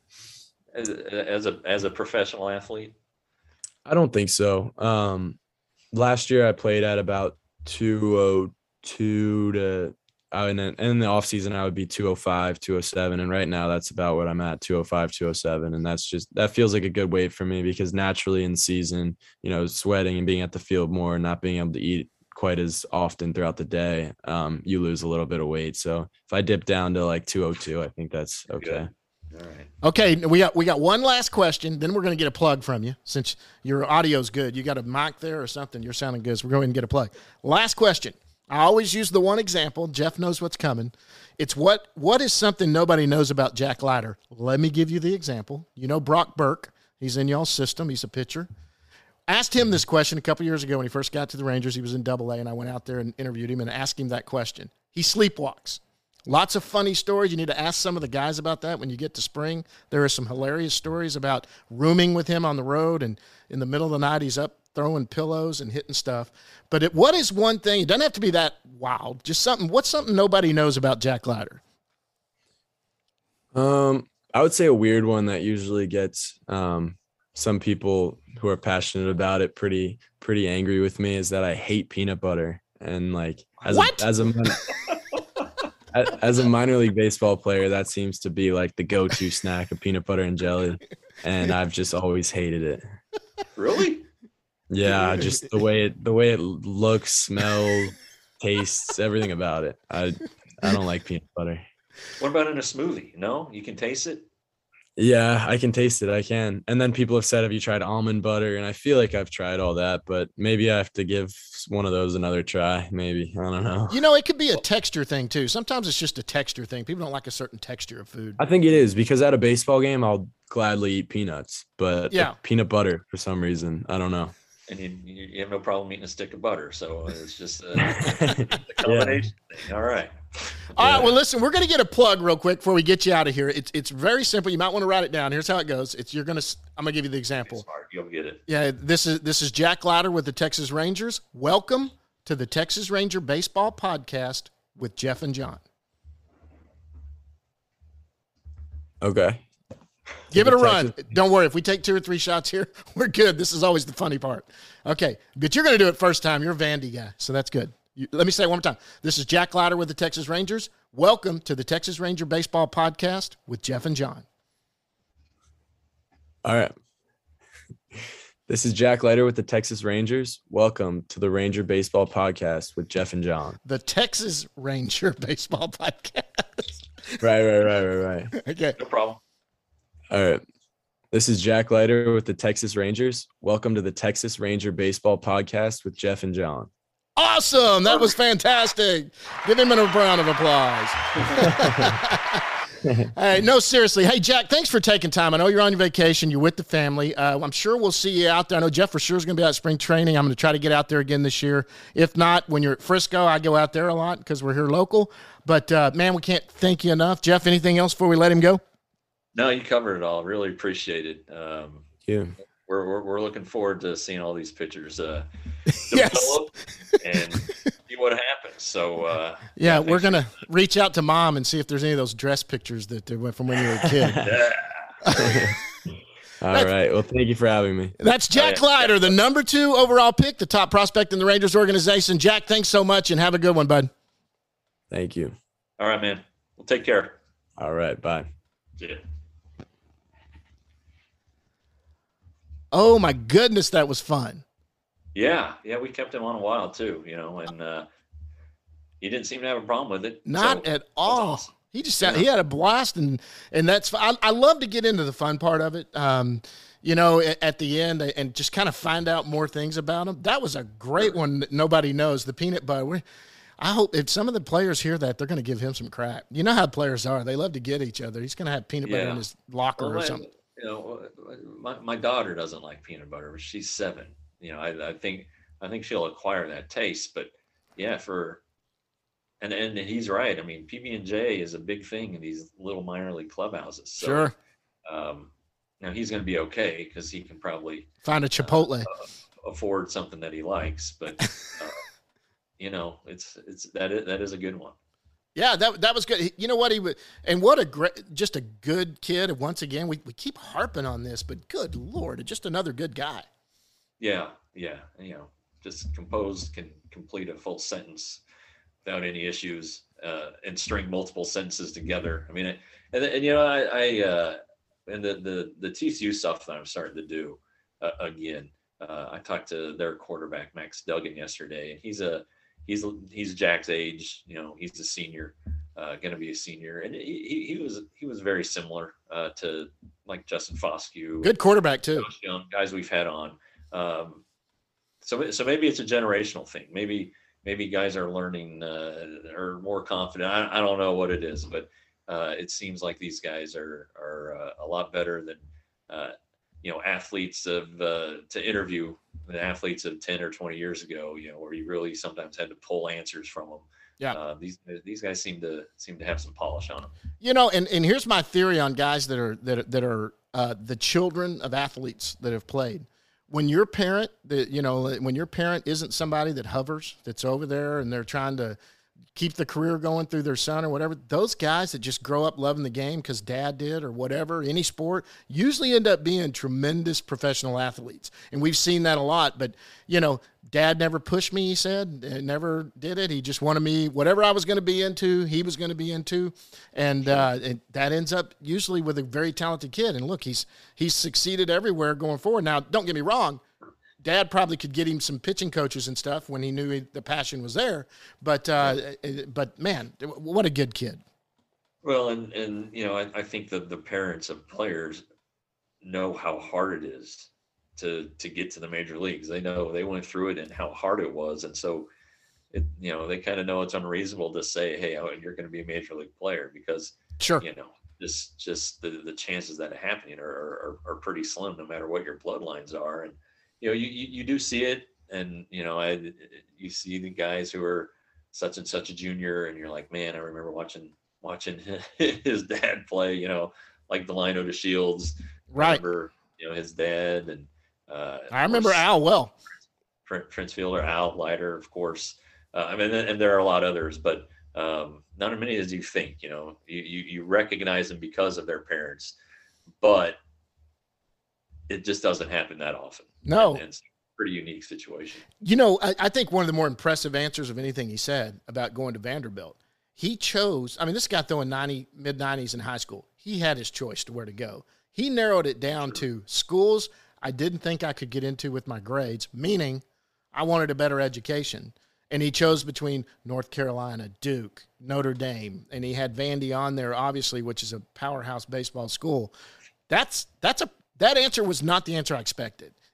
as, as a, as a professional athlete? I don't think so. Um, last year I played at about two oh two to, uh, and then in the off season I would be two oh five, two oh seven. And right now that's about what I'm at, two oh five, two oh seven. And that's just, that feels like a good weight for me because naturally in season, you know, sweating and being at the field more and not being able to eat quite as often throughout the day, um, you lose a little bit of weight. So if I dip down to like two oh two, I think that's okay. All right. Okay. We got, we got one last question. Then we're going to get a plug from you since your audio's good. You got a mic there or something. You're sounding good. So we're going to get a plug. Last question. I always use the one example. Jeff knows what's coming. It's what what is something nobody knows about Jack Leiter? Let me give you the example. You know Brock Burke. He's in y'all's system. He's a pitcher. Asked him this question a couple years ago when he first got to the Rangers. He was in Double A, and I went out there and interviewed him and asked him that question. He sleepwalks. Lots of funny stories. You need to ask some of the guys about that when you get to spring. There are some hilarious stories about rooming with him on the road, and in the middle of the night he's up throwing pillows and hitting stuff. But it, what is one thing? It doesn't have to be that wild. Just something. What's something nobody knows about Jack Leiter? Um, I would say a weird one that usually gets um, some people who are passionate about it pretty pretty angry with me is that I hate peanut butter. And like as What? a, as a min- as a minor league baseball player, that seems to be like the go-to snack of peanut butter and jelly, and I've just always hated it. Really? Yeah, just the way it the way it looks, smells, tastes, everything about it. I I don't like peanut butter. What about in a smoothie? No, you can taste it. Yeah, I can taste it. I can. And then people have said, have you tried almond butter? And I feel like I've tried all that, but maybe I have to give one of those another try. Maybe. I don't know. You know, it could be a texture thing, too. Sometimes it's just a texture thing. People don't like a certain texture of food. I think it is because at a baseball game, I'll gladly eat peanuts, but Yeah. peanut butter for some reason, I don't know. And you, you have no problem eating a stick of butter. So it's just a, a combination thing. All right. All right, well, listen, we're going to get a plug real quick before we get you out of here. It's it's very simple. You might want to write it down. Here's how it goes. It's you're going to I'm going to give you the example. Smart. You'll get it. Yeah, this is this is Jack Leiter with the Texas Rangers. Welcome to the Texas Ranger Baseball Podcast with Jeff and John. Okay. Give it a The run. Texas- Don't worry. If we take two or three shots here, we're good. This is always the funny part. Okay, but you're going to do it first time. You're a Vandy guy, so that's good. You, let me say it one more time. This is Jack Leiter with the Texas Rangers. Welcome to the Texas Ranger Baseball Podcast with Jeff and John. All right. This is Jack Leiter with the Texas Rangers. Welcome to the Ranger Baseball Podcast with Jeff and John. The Texas Ranger Baseball Podcast. Right, right, right, right, right. Okay. No problem. All right. This is Jack Leiter with the Texas Rangers. Welcome to the Texas Ranger Baseball Podcast with Jeff and John. Awesome. That was fantastic. Give him a round of applause. All right, no, seriously. Hey, Jack, thanks for taking time. I know you're on your vacation. You're with the family. Uh, I'm sure we'll see you out there. I know Jeff for sure is going to be out at spring training. I'm going to try to get out there again this year. If not, when you're at Frisco, I go out there a lot because we're here local. But, uh, man, we can't thank you enough. Jeff, anything else before we let him go? No, you covered it all. Really appreciate it. Um, Thank you. We're, we're we're looking forward to seeing all these pictures uh, Yes. develop and see what happens. So uh, Yeah, yeah, we're thanks going to reach out to Mom and see if there's any of those dress pictures that they went from when you were a kid. Yeah. All right. Well, thank you for having me. That's Jack Leiter, the number two overall pick, the top prospect in the Rangers organization. Jack, thanks so much, and have a good one, bud. Thank you. All right, man. Well, take care. All right. Bye. Yeah. Oh, my goodness, that was fun. Yeah, yeah, we kept him on a while too, you know, and uh, he didn't seem to have a problem with it. Not so at all. awesome. He just sound, he had a blast, and and that's I, I love to get into the fun part of it. Um, you know, at, at the end, and just kind of find out more things about him. That was a great one that nobody knows. The peanut butter. We, I hope if some of the players hear that, they're going to give him some crap. You know how players are; they love to get each other. He's going to have peanut butter Yeah. in his locker Well, or my- something. You know, my, my daughter doesn't like peanut butter, but she's seven. You know, I, I think I think she'll acquire that taste. But yeah, for and and he's right. I mean, P B and J is a big thing in these little minor league clubhouses. So, Sure, Um, now he's going to be okay because he can probably find a Chipotle. afford something that he likes. But uh, you know, it's it's that is, that is a good one. Yeah, that that was good. You know what he would, and what a great, just a good kid. And once again, we, we keep harping on this, but good Lord, just another good guy. Yeah, yeah, you know, just compose, can complete a full sentence without any issues, uh, and string multiple sentences together. I mean, it, and, and you know, I, I uh, and the the the T C U stuff that I'm starting to do uh, again. Uh, I talked to their quarterback Max Duggan yesterday, and he's a he's he's Jack's age. You know, he's a senior, uh, going to be a senior, and he, he was he was very similar uh, to like Justin Foscue. Good quarterback too. Josh Young, guys we've had on. Um, so so maybe it's a generational thing. Maybe maybe guys are learning uh, are more confident. I, I don't know what it is, but uh, it seems like these guys are are uh, a lot better than uh, you know athletes of uh, to interview the athletes of ten or twenty years ago. You know, where you really sometimes had to pull answers from them. Yeah. Uh, these these guys seem to seem to have some polish on them. You know, and, and here's my theory on guys that are that are, that are uh, the children of athletes that have played. When your parent, that you know, when your parent isn't somebody that hovers, that's over there, and they're trying to keep the career going through their son or whatever, those guys that just grow up loving the game because dad did or whatever, any sport, usually end up being tremendous professional athletes. And we've seen that a lot. But, you know, dad never pushed me, he said, and never did it. He just wanted me, whatever I was going to be into, he was going to be into. And, uh, and that ends up usually with a very talented kid. And look, he's he's succeeded everywhere going forward. Now, don't get me wrong. Dad probably could get him some pitching coaches and stuff when he knew he, the passion was there. But, uh, but man, what a good kid. Well, and, and you know, I, I think that the parents of players know how hard it is to to get to the major leagues. They know they went through it and how hard it was. And so, it, you know, they kind of know it's unreasonable to say, hey, oh, you're going to be a major league player because, Sure. you know, just just the, the chances that happening are, are, are pretty slim no matter what your bloodlines are. And, you know, you, you, you do see it, and, you know, I, you see the guys who are such and such a junior, and you're like, man, I remember watching, watching his dad play, you know, like Delino to Shields. Right. I remember, you know, his dad, and uh, I remember Al well. Prince Fielder, Al Leiter, of course. Uh, I mean, and there are a lot of others, but um, not as many as you think, you know, you, you, you recognize them because of their parents, but it just doesn't happen that often. No. And, and it's a pretty unique situation. You know, I, I think one of the more impressive answers of anything he said about going to Vanderbilt, he chose, I mean, this guy throwing ninety, mid nineties in high school. He had his choice to where to go. He narrowed it down Sure. to schools I didn't think I could get into with my grades, meaning I wanted a better education. And he chose between North Carolina, Duke, Notre Dame, and he had Vandy on there, obviously, which is a powerhouse baseball school. That's that's a that answer was not the answer I expected.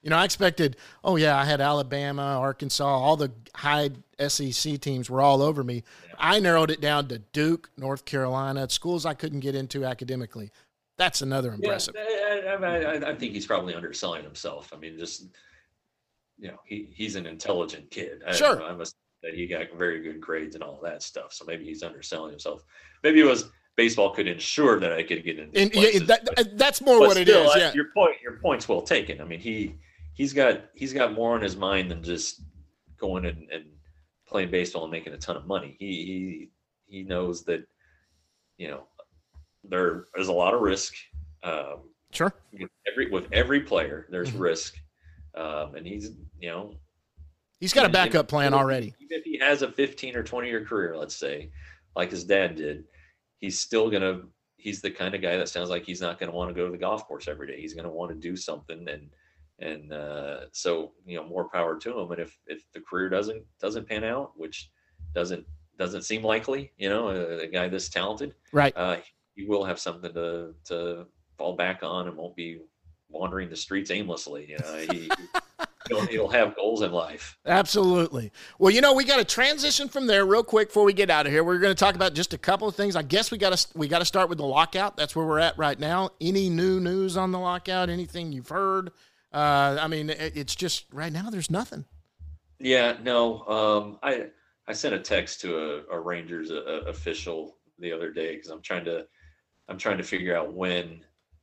You know, I expected, oh, yeah, I had Alabama, Arkansas, all the high S E C teams were all over me. Yeah. I narrowed it down to Duke, North Carolina, schools I couldn't get into academically. That's another impressive. Yeah, I, I, I think he's probably underselling himself. I mean, just, you know, he, he's an intelligent kid. Sure. I, I must that he got very good grades and all that stuff. So maybe he's underselling himself. Maybe it was baseball could ensure that I could get in. And, yeah, that, that's more what still, it is. Yeah. Your point, your point's well taken. I mean, he he's got he's got more on his mind than just going and, and playing baseball and making a ton of money. He he he knows that, you know, there is a lot of risk. Um, sure. With every with every player, there's mm-hmm. risk, um, and he's you know. He's got a backup plan already. Even if he has a fifteen or twenty year career, let's say, like his dad did, he's still going to, he's the kind of guy that sounds like he's not going to want to go to the golf course every day. He's going to want to do something. And, and uh, so, you know, more power to him. And if, if the career doesn't, doesn't pan out, which doesn't, doesn't seem likely, you know, a, a guy this talented, right. Uh, he will have something to, to fall back on and won't be wandering the streets aimlessly. You know, he, He'll, he'll have goals in life. Absolutely. Well, you know, we got to transition from there real quick before we get out of here. We're going to talk about just a couple of things. I guess we got to we got to start with the lockout. That's where we're at right now. Any new news on the lockout? Anything you've heard? Uh, I mean, it, it's just right now there's nothing. Yeah, no. Um, I I sent a text to a, a Rangers a, a official the other day because I'm trying to I'm trying to figure out when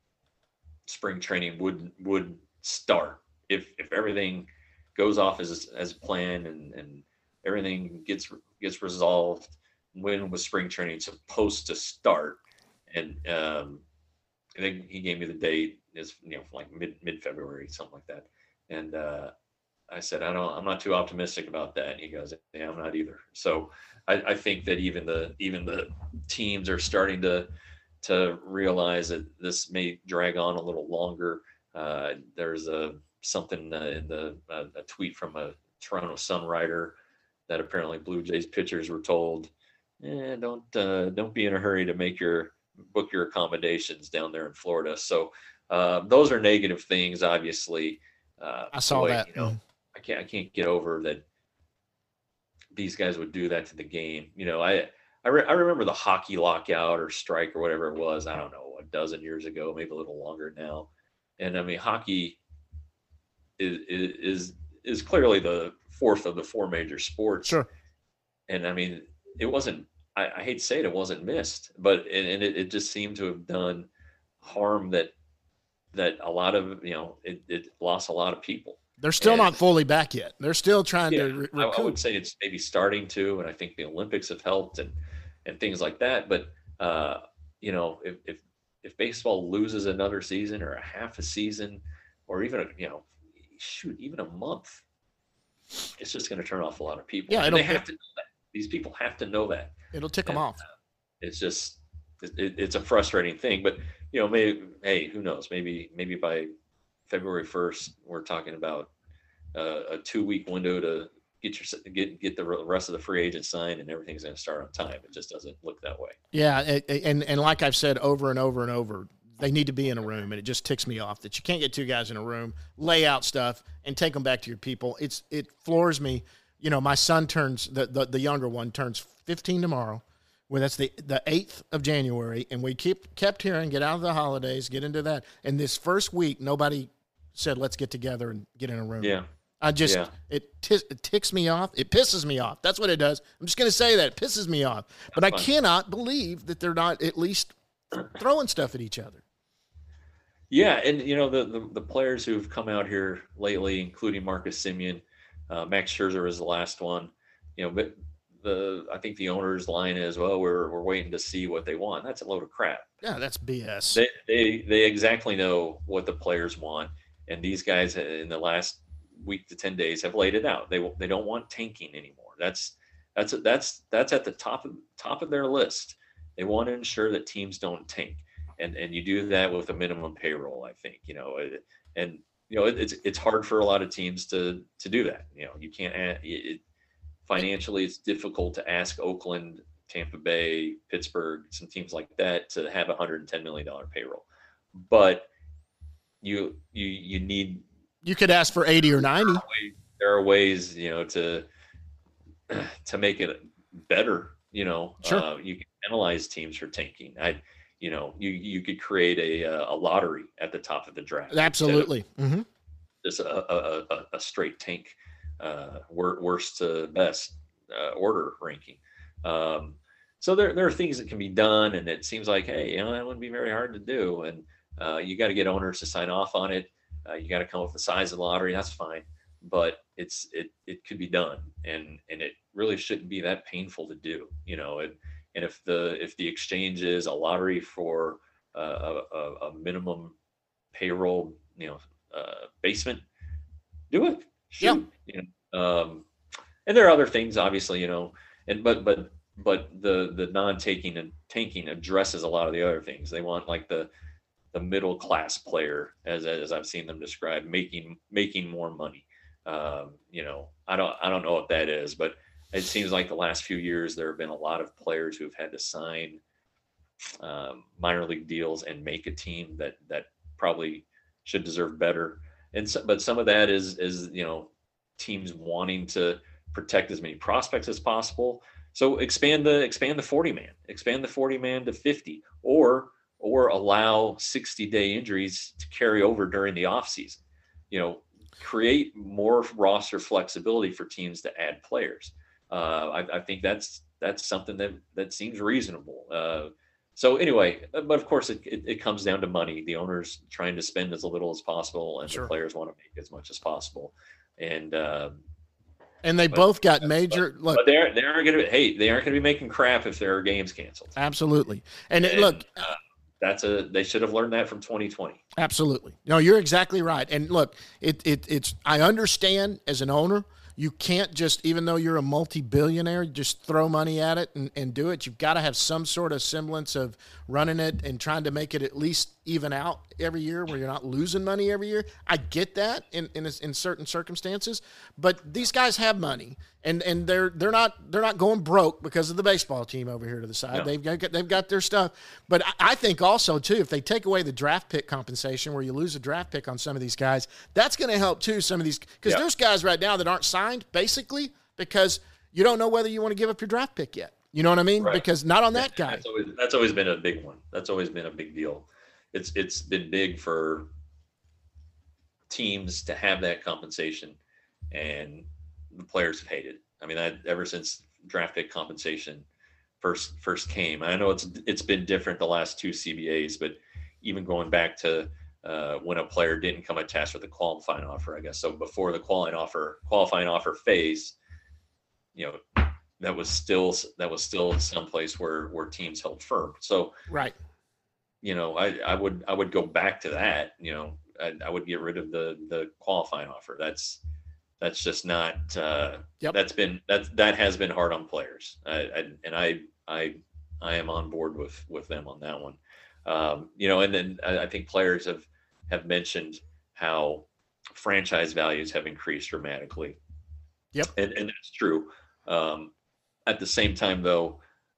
spring training would would start. If if everything goes off as as planned and, and everything gets gets resolved, when was spring training supposed to start? And um, I think he gave me the date is you know like mid mid February, something like that. And uh, I said I don't I'm not too optimistic about that. And he goes, yeah, I'm not either. So I, I think that even the even the teams are starting to to realize that this may drag on a little longer. Uh, there's a something uh, in the uh, a tweet from a Toronto Sun writer that apparently Blue Jays pitchers were told, eh, don't uh, don't be in a hurry to make your book your accommodations down there in Florida. So uh, those are negative things, obviously. Uh, I saw boy, that. You know, mm. I can't I can't get over that these guys would do that to the game. You know, I I, re- I remember the hockey lockout or strike or whatever it was. I don't know, a dozen years ago, maybe a little longer now. And I mean, hockey is is is clearly the fourth of the four major sports. Sure. And I mean, it wasn't, I, I hate to say it, it wasn't missed, but, and, and it, it just seemed to have done harm that, that a lot of, you know, it, it lost a lot of people. They're still and, not fully back yet. They're still trying yeah, to re- recoup. I, I would say it's maybe starting to, and I think the Olympics have helped and, and things like that. But, uh, you know, if, if, if baseball loses another season or a half a season, or even, a, you know, shoot, even a month, it's just going to turn off a lot of people. Yeah, and they have to know that. These people have to know that. It'll tick and, them off. Uh, it's just, it, it's a frustrating thing. But, you know, maybe, hey, who knows? Maybe, maybe by February first, we're talking about uh, a two-week window to get your get get the rest of the free agent signed, and everything's going to start on time. It just doesn't look that way. Yeah, and and like I've said over and over and over, they need to be in a room, and it just ticks me off that you can't get two guys in a room, lay out stuff, and take them back to your people. It's it floors me. You know, my son turns the the, the younger one turns fifteen tomorrow. Well, that's the the eighth of January, and we keep kept hearing get out of the holidays, get into that. And this first week, nobody said let's get together and get in a room. Yeah, I just yeah. it, t- it ticks me off. It pisses me off. That's what it does. I'm just going to say that it pisses me off. But That's I fun. cannot believe that they're not at least throwing stuff at each other. Yeah, and you know the, the the players who've come out here lately, including Marcus Semien, uh, Max Scherzer is the last one. You know, but the I think the owner's line is, well, we're we're waiting to see what they want. That's a load of crap. Yeah, that's B S. They they they exactly know what the players want, and these guys in the last week to ten days have laid it out. They they don't want tanking anymore. That's that's that's that's at the top of top of their list. They want to ensure that teams don't tank. And and you do that with a minimum payroll, I think, you know, and, you know, it, it's it's hard for a lot of teams to to do that. You know, you can't add, it, financially, it's difficult to ask Oakland, Tampa Bay, Pittsburgh, some teams like that to have a one hundred ten million dollars payroll. But you you you need You could ask for eighty or ninety. There are ways, there are ways you know, to to make it better. You know, Sure. uh, you can penalize teams for tanking. I, you know, you you could create a a lottery at the top of the draft. Absolutely. Mm-hmm. Just a, a, a, a straight tank, uh, worst to best uh, order ranking. Um, so there there are things that can be done, and it seems like, hey, you know, that wouldn't be very hard to do. And uh, you got to get owners to sign off on it. Uh, you got to come up with the size of the lottery. That's fine, but it's it it could be done, and and it really shouldn't be that painful to do. You know, and and if the if the exchange is a lottery for uh, a, a minimum payroll, you know, uh, basement, do it. Shoot. Yeah. You know, um, and there are other things, obviously, you know, and but but but the the non-taking and tanking addresses a lot of the other things. They want like the the middle class player, as as I've seen them described, making making more money. Um, you know, I don't I don't know what that is, but it seems like the last few years there have been a lot of players who've had to sign um, minor league deals and make a team that that probably should deserve better. And so, but some of that is is you know, teams wanting to protect as many prospects as possible. So expand the expand the forty man, expand the forty man to fifty, or or allow sixty day injuries to carry over during the off season. You know, create more roster flexibility for teams to add players. Uh, I, I think that's that's something that that seems reasonable. Uh, so anyway, but of course it, it, it comes down to money. The owners trying to spend as little as possible, and Sure. the players want to make as much as possible. And um, And they but, both got major but, look. But they're they aren't going to. Hey, they aren't going to be making crap if there are games canceled. Absolutely. And, And, look, uh, that's a they should have learned that from twenty twenty. absolutely. No, you're exactly right. And look, it it it's I understand as an owner, you can't just, even though you're a multi-billionaire, just throw money at it and, and do it. You've got to have some sort of semblance of running it and trying to make it at least even out every year where you're not losing money every year. I get that in in, in certain circumstances, but these guys have money and, and they're they're not they're not going broke because of the baseball team over here to the side. No. They've got they've got their stuff. But I, I think also too, if they take away the draft pick compensation where you lose a draft pick on some of these guys, that's going to help too. Some of these, because Yeah. there's guys right now that aren't signed basically because you don't know whether you want to give up your draft pick yet. You know what I mean? Right. Because not on that Yeah, guy. That's always, that's always been a big one. That's always been a big deal. It's it's been big for teams to have that compensation, and the players have hated. I mean, that ever since draft pick compensation first first came. I know it's it's been different the last two C B As, but even going back to uh, when a player didn't come attached with a qualifying offer, I guess. So before the qualifying offer qualifying offer phase, you know, that was still that was still someplace where where teams held firm. So Right. you know, I, I would I would go back to that. You know, I, I would get rid of the the qualifying offer. That's that's just not. Uh, Yep. That's been that that has been hard on players. I, I, and I I I am on board with with them on that one. Um, you know, and then I, I think players have have mentioned how franchise values have increased dramatically. Yep. And and that's true. Um, at the same time, though,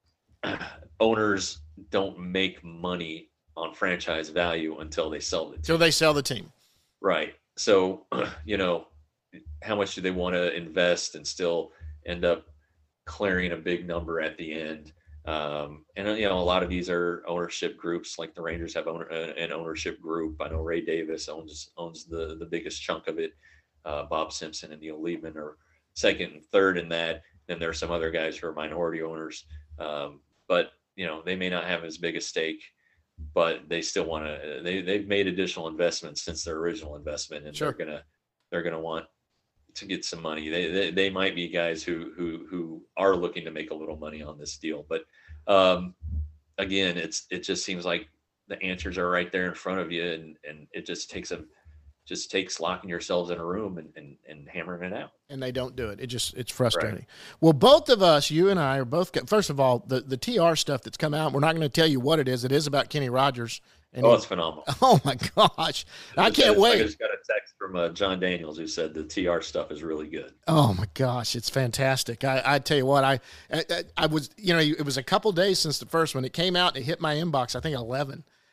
owners don't make money on franchise value until they sell the team. Till they sell the team. Right. So, you know, how much do they want to invest and still end up clearing a big number at the end? Um, and, you know, a lot of these are ownership groups, like the Rangers have owner, an ownership group. I know Ray Davis owns owns the, the biggest chunk of it. Uh, Bob Simpson and Neil Liebman are second and third in that. Then there are some other guys who are minority owners. Um, but, you know, they may not have as big a stake, but they still want to, they, they've made additional investments since their original investment, and Sure. they're going to, they're going to want to get some money. They, they, they might be guys who, who, who are looking to make a little money on this deal. But um, again, it's, it just seems like the answers are right there in front of you. And, and it just takes a, just takes locking yourselves in a room and, and, and hammering it out. And they don't do it. It just, it's frustrating. Right. Well, both of us, you and I are both, first of all, the, the T R stuff that's come out, we're not going to tell you what it is. It is about Kenny Rogers. And oh, he, it's phenomenal. Oh my gosh. I, I can't just, wait. I just got a text from uh, John Daniels who said the T R stuff is really good. Oh my gosh. It's fantastic. I, I tell you what, I, I, I was, you know, it was a couple days since the first one. It came out and it hit my inbox, I think eleven.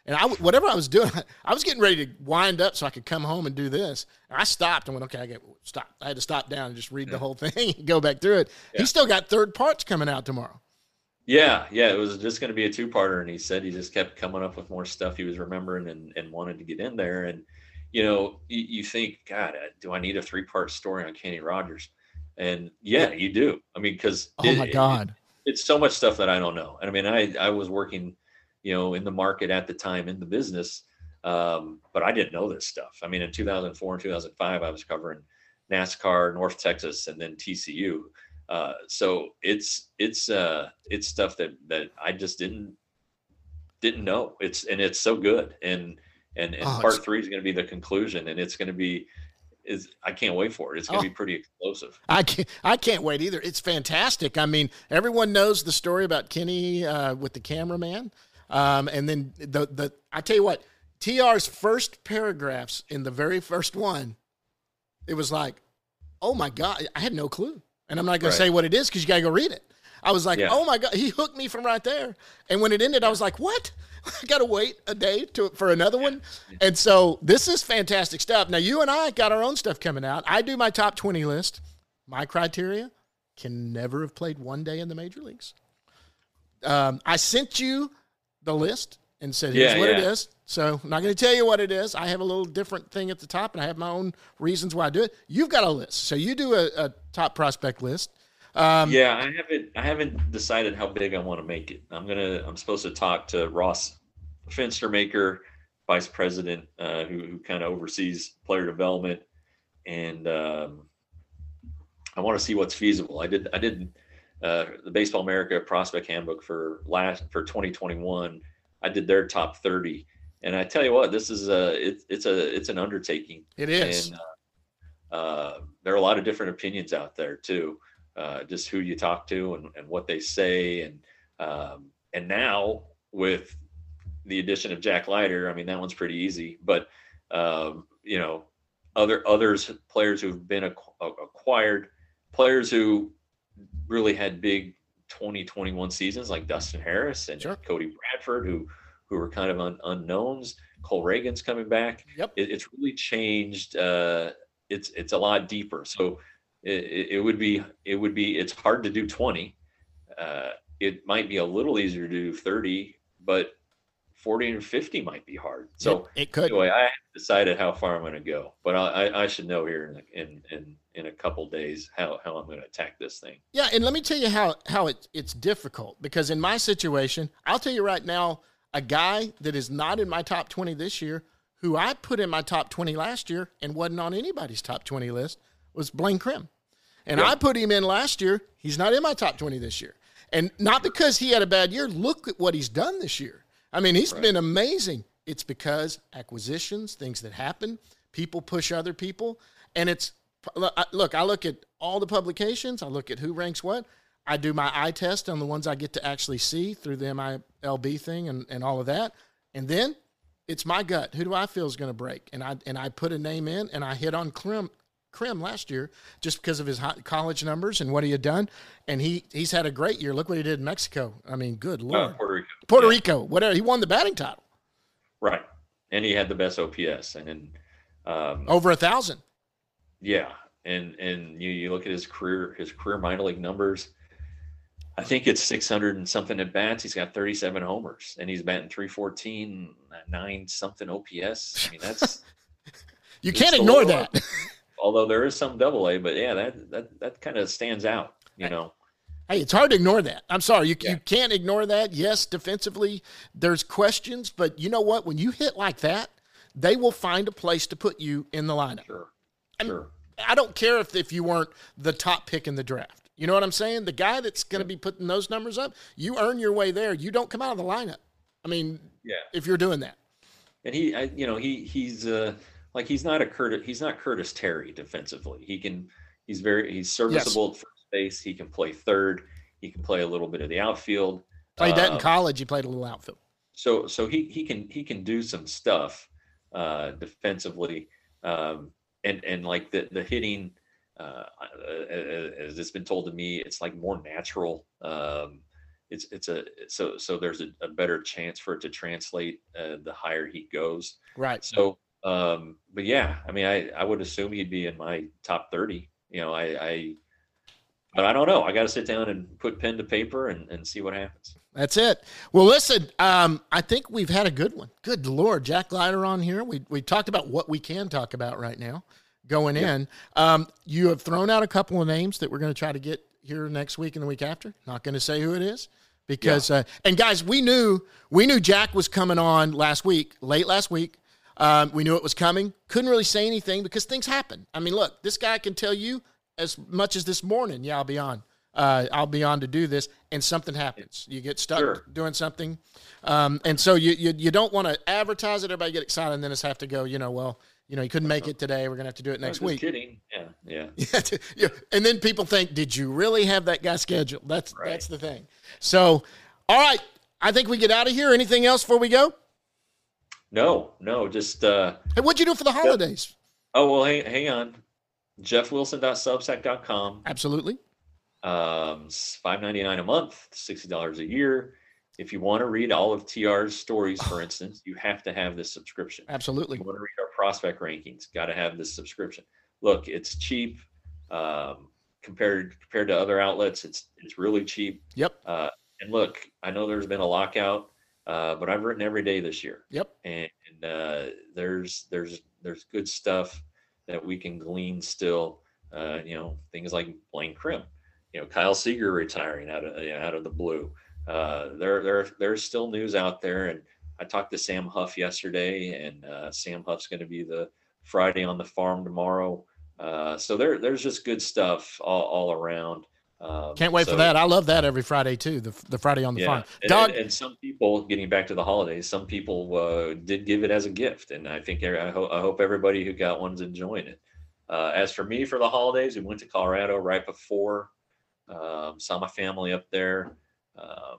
And I, whatever I was doing, I was getting ready to wind up so I could come home and do this. And I stopped and went, okay, I get stop. I had to stop down and just read the whole thing and go back through it. Yeah. He's still got third parts coming out tomorrow. Yeah, yeah, it was just going to be a two-parter, and he said he just kept coming up with more stuff he was remembering and, and wanted to get in there. And, you know, you, you think, God, do I need a three-part story on Kenny Rogers? And, yeah, you do. I mean, because – Oh, my God. It, it's so much stuff that I don't know. And, I mean, I, I was working, you know, in the market at the time, in the business, um, but I didn't know this stuff. I mean, in two thousand four and two thousand five, I was covering NASCAR, North Texas, and then T C U. Uh, so it's it's uh, it's stuff that that I just didn't didn't know. It's and it's so good. And and, and oh, part three is going to be the conclusion, and it's going to be is I can't wait for it. It's going to oh, be pretty explosive. I can't I can't wait either. It's fantastic. I mean, everyone knows the story about Kenny uh, with the cameraman, um, and then the the I tell you what, T R's first paragraphs in the very first one, it was like, oh my God, I had no clue. And I'm not going Right. to say what it is because you got to go read it. I was like, Yeah. oh, my God. He hooked me from right there. And when it ended, I was like, what? I got to wait a day to for another one. And so this is fantastic stuff. Now, you and I got our own stuff coming out. I do my top twenty list. My criteria, can never have played one day in the major leagues. Um, I sent you the list and said, here's Yeah, what it yeah. is. So I'm not going to tell you what it is. I have a little different thing at the top, and I have my own reasons why I do it. You've got a list. So you do a, a top prospect list. Um, Yeah, I haven't I haven't decided how big I want to make it. I'm gonna I'm supposed to talk to Ross Fenstermaker, vice president, uh, who who kind of oversees player development, and um, I want to see what's feasible. I did I did uh, the Baseball America Prospect Handbook for last for twenty twenty-one. I did their top thirty, and I tell you what, this is a it's it's a it's an undertaking. It is. And uh, uh, there are a lot of different opinions out there too. Uh, just who you talk to and, and what they say. And, um, and now with the addition of Jack Leiter, I mean, that one's pretty easy, but, um, you know, other, others, players who've been acqu- acquired, players who really had big twenty twenty-one seasons, like Dustin Harris and Sure. Cody Bradford, who, who were kind of un, unknowns. Cole Reagan's coming back. Yep. It, it's really changed. Uh, it's, it's a lot deeper. So, It, it would be, it would be, it's hard to do twenty. Uh, it might be a little easier to do thirty, but forty and fifty might be hard. So it, it could. anyway, I haven't decided how far I'm going to go, but I, I, I should know here in, in, in, in a couple days how, how I'm going to attack this thing. Yeah, and let me tell you how how it, it's difficult, because in my situation, I'll tell you right now, a guy that is not in my top twenty this year, who I put in my top twenty last year and wasn't on anybody's top twenty list, was Blaine Krim. And Yeah. I put him in last year. He's not in my top twenty this year. And not because he had a bad year. Look at what he's done this year. I mean, he's Right. been amazing. It's because acquisitions, things that happen, people push other people. And it's, look, I look at all the publications. I look at who ranks what. I do my eye test on the ones I get to actually see through the M I L B thing and, and all of that. And then it's my gut. Who do I feel is going to break? And I and I put a name in, and I hit on Krim, Krim last year just because of his high college numbers and what he had done. And he he's had a great year. Look what he did in Mexico. I mean, good Lord. Uh, Puerto Rico. Puerto Yeah. Rico, whatever. He won the batting title. Right. And he had the best O P S. And then, um, Over a thousand. yeah. And, and you, you look at his career, his career minor league numbers, I think it's six hundred and something at bats. He's got thirty-seven homers, and he's batting three fourteen, nine something O P S. I mean, that's, You It's can't a ignore little- that. although there is some double A, but yeah, that, that, that kind of stands out, you know? Hey, it's hard to ignore that. I'm sorry. You, Yeah. you can't ignore that. Yes, defensively, there's questions, but you know what? When you hit like that, they will find a place to put you in the lineup. Sure. I'm- Sure. I don't care if, if you weren't the top pick in the draft. You know what I'm saying? The guy that's going to be putting those numbers up, you earn your way there. You don't come out of the lineup. I mean, Yeah. if you're doing that. And he, I, you know, he, he's uh, like, he's not a Curtis, he's not Curtis Terry defensively. He can, he's very, he's serviceable at first base. He can play third. He can play a little bit of the outfield. Played that in Um, college. He played a little outfield. So, so he, he can, he can do some stuff uh, defensively. Um, and, and like the, the hitting, uh, as it's been told to me, it's like more natural. Um, it's it's a so so there's a, a better chance for it to translate uh, the higher he goes. Right. So, um, but yeah, I mean, I I would assume he'd be in my top thirty. You know, I I but I don't know. I got to sit down and put pen to paper and and see what happens. That's it. Well, listen, um, I think we've had a good one. Good Lord, Jack Leiter on here. We we talked about what we can talk about right now going yeah. in. Um, you have thrown out a couple of names that we're going to try to get here next week and the week after. Not going to say who it is because, yeah. uh, and guys, we knew, we knew Jack was coming on last week, late last week. Um, we knew it was coming. Couldn't really say anything because things happen. I mean, look, this guy can tell you as much as this morning, yeah, I'll be on. Uh, I'll be on to do this, and something happens. You get stuck sure. doing something, um, and so you you, you don't want to advertise it. Everybody get excited, and then it's have to go. You know, well, you know, you couldn't make it today. We're gonna have to do it next I'm just week. Kidding, yeah, yeah. yeah, yeah. And then people think, did you really have that guy scheduled? That's right. that's the thing. So, all right, I think we get out of here. Anything else before we go? No, no, just. Uh, hey, what'd you do for the holidays? Oh well, hang hang on, jeff wilson dot substack dot com. Absolutely. Um, five ninety-nine a month, sixty dollars a year. If you want to read all of T R's stories, for instance, you have to have this subscription. Absolutely. If you want to read our prospect rankings, got to have this subscription. Look, it's cheap um, compared compared to other outlets. It's it's really cheap. Yep. Uh, and look, I know there's been a lockout, uh, but I've written every day this year. Yep. And, and uh, there's there's there's good stuff that we can glean still. Uh, you know, things like Blaine Crim. You know, Kyle Seager retiring out of you know, out of the blue. Uh, there, there, there's still news out there, and I talked to Sam Huff yesterday, and uh, Sam Huff's going to be the Friday on the farm tomorrow. Uh, so there, there's just good stuff all, all around. Um, Can't wait so, for that. I love that every Friday too. The the Friday on the yeah, farm. And, Dog. and, and some people, getting back to the holidays, some people uh, did give it as a gift, and I think I hope I hope everybody who got one's enjoying it. Uh, as for me, for the holidays, we went to Colorado right before. Um, saw my family up there. Um,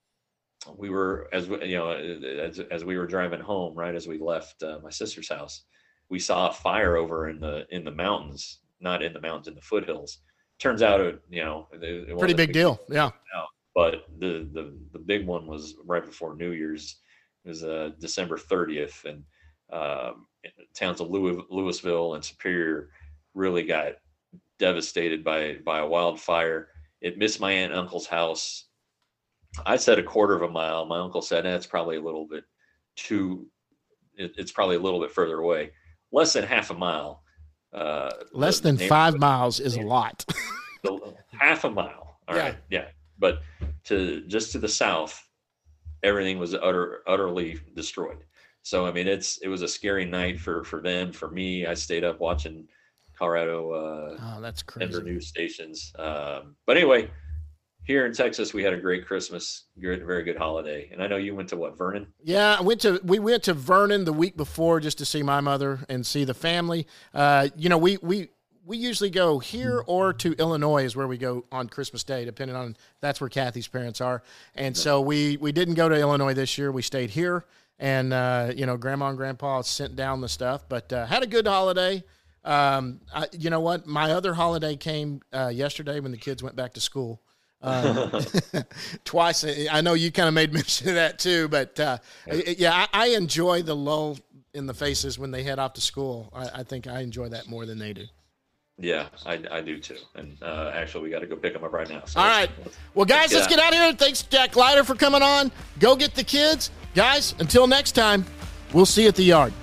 we were, as we, you know, as, as we were driving home, right as we left uh, my sister's house, we saw a fire over in the in the mountains, not in the mountains, in the foothills. Turns out, it, you know, it, it pretty big deal, yeah. But the the the big one was right before New Year's. It was uh, December thirtieth, and um, towns of Louis, Louisville and Superior really got devastated by by a wildfire. It missed my aunt and uncle's house. I said a quarter of a mile. My uncle said that's eh, probably a little bit too. It, it's probably a little bit further away. Less than half a mile. Uh, Less than five miles is a lot. Half a mile. All yeah. right. Yeah. But to just to the south, everything was utter utterly destroyed. So I mean, it's it was a scary night for for them. For me, I stayed up watching Colorado uh oh, that's crazy. Denver news stations. Um, but anyway, here in Texas, we had a great Christmas, good, very good holiday. And I know you went to what, Vernon? Yeah, I went to we went to Vernon the week before just to see my mother and see the family. Uh, you know, we we we usually go here or to Illinois is where we go on Christmas Day, depending on that's where Kathy's parents are. And so we we didn't go to Illinois this year. We stayed here, and uh, you know, Grandma and Grandpa sent down the stuff, but uh, had a good holiday. Um, I, you know what? My other holiday came uh, yesterday when the kids went back to school. Um, twice. I know you kind of made mention of that too, but uh, yeah, I, I enjoy the lull in the faces when they head off to school. I, I think I enjoy that more than they do. Yeah, I, I do too. And uh, actually, we got to go pick them up right now. So All right. Well, guys, let's get, let's get out of here. Thanks, Jack Leiter, for coming on. Go get the kids. Guys, until next time, we'll see you at the yard.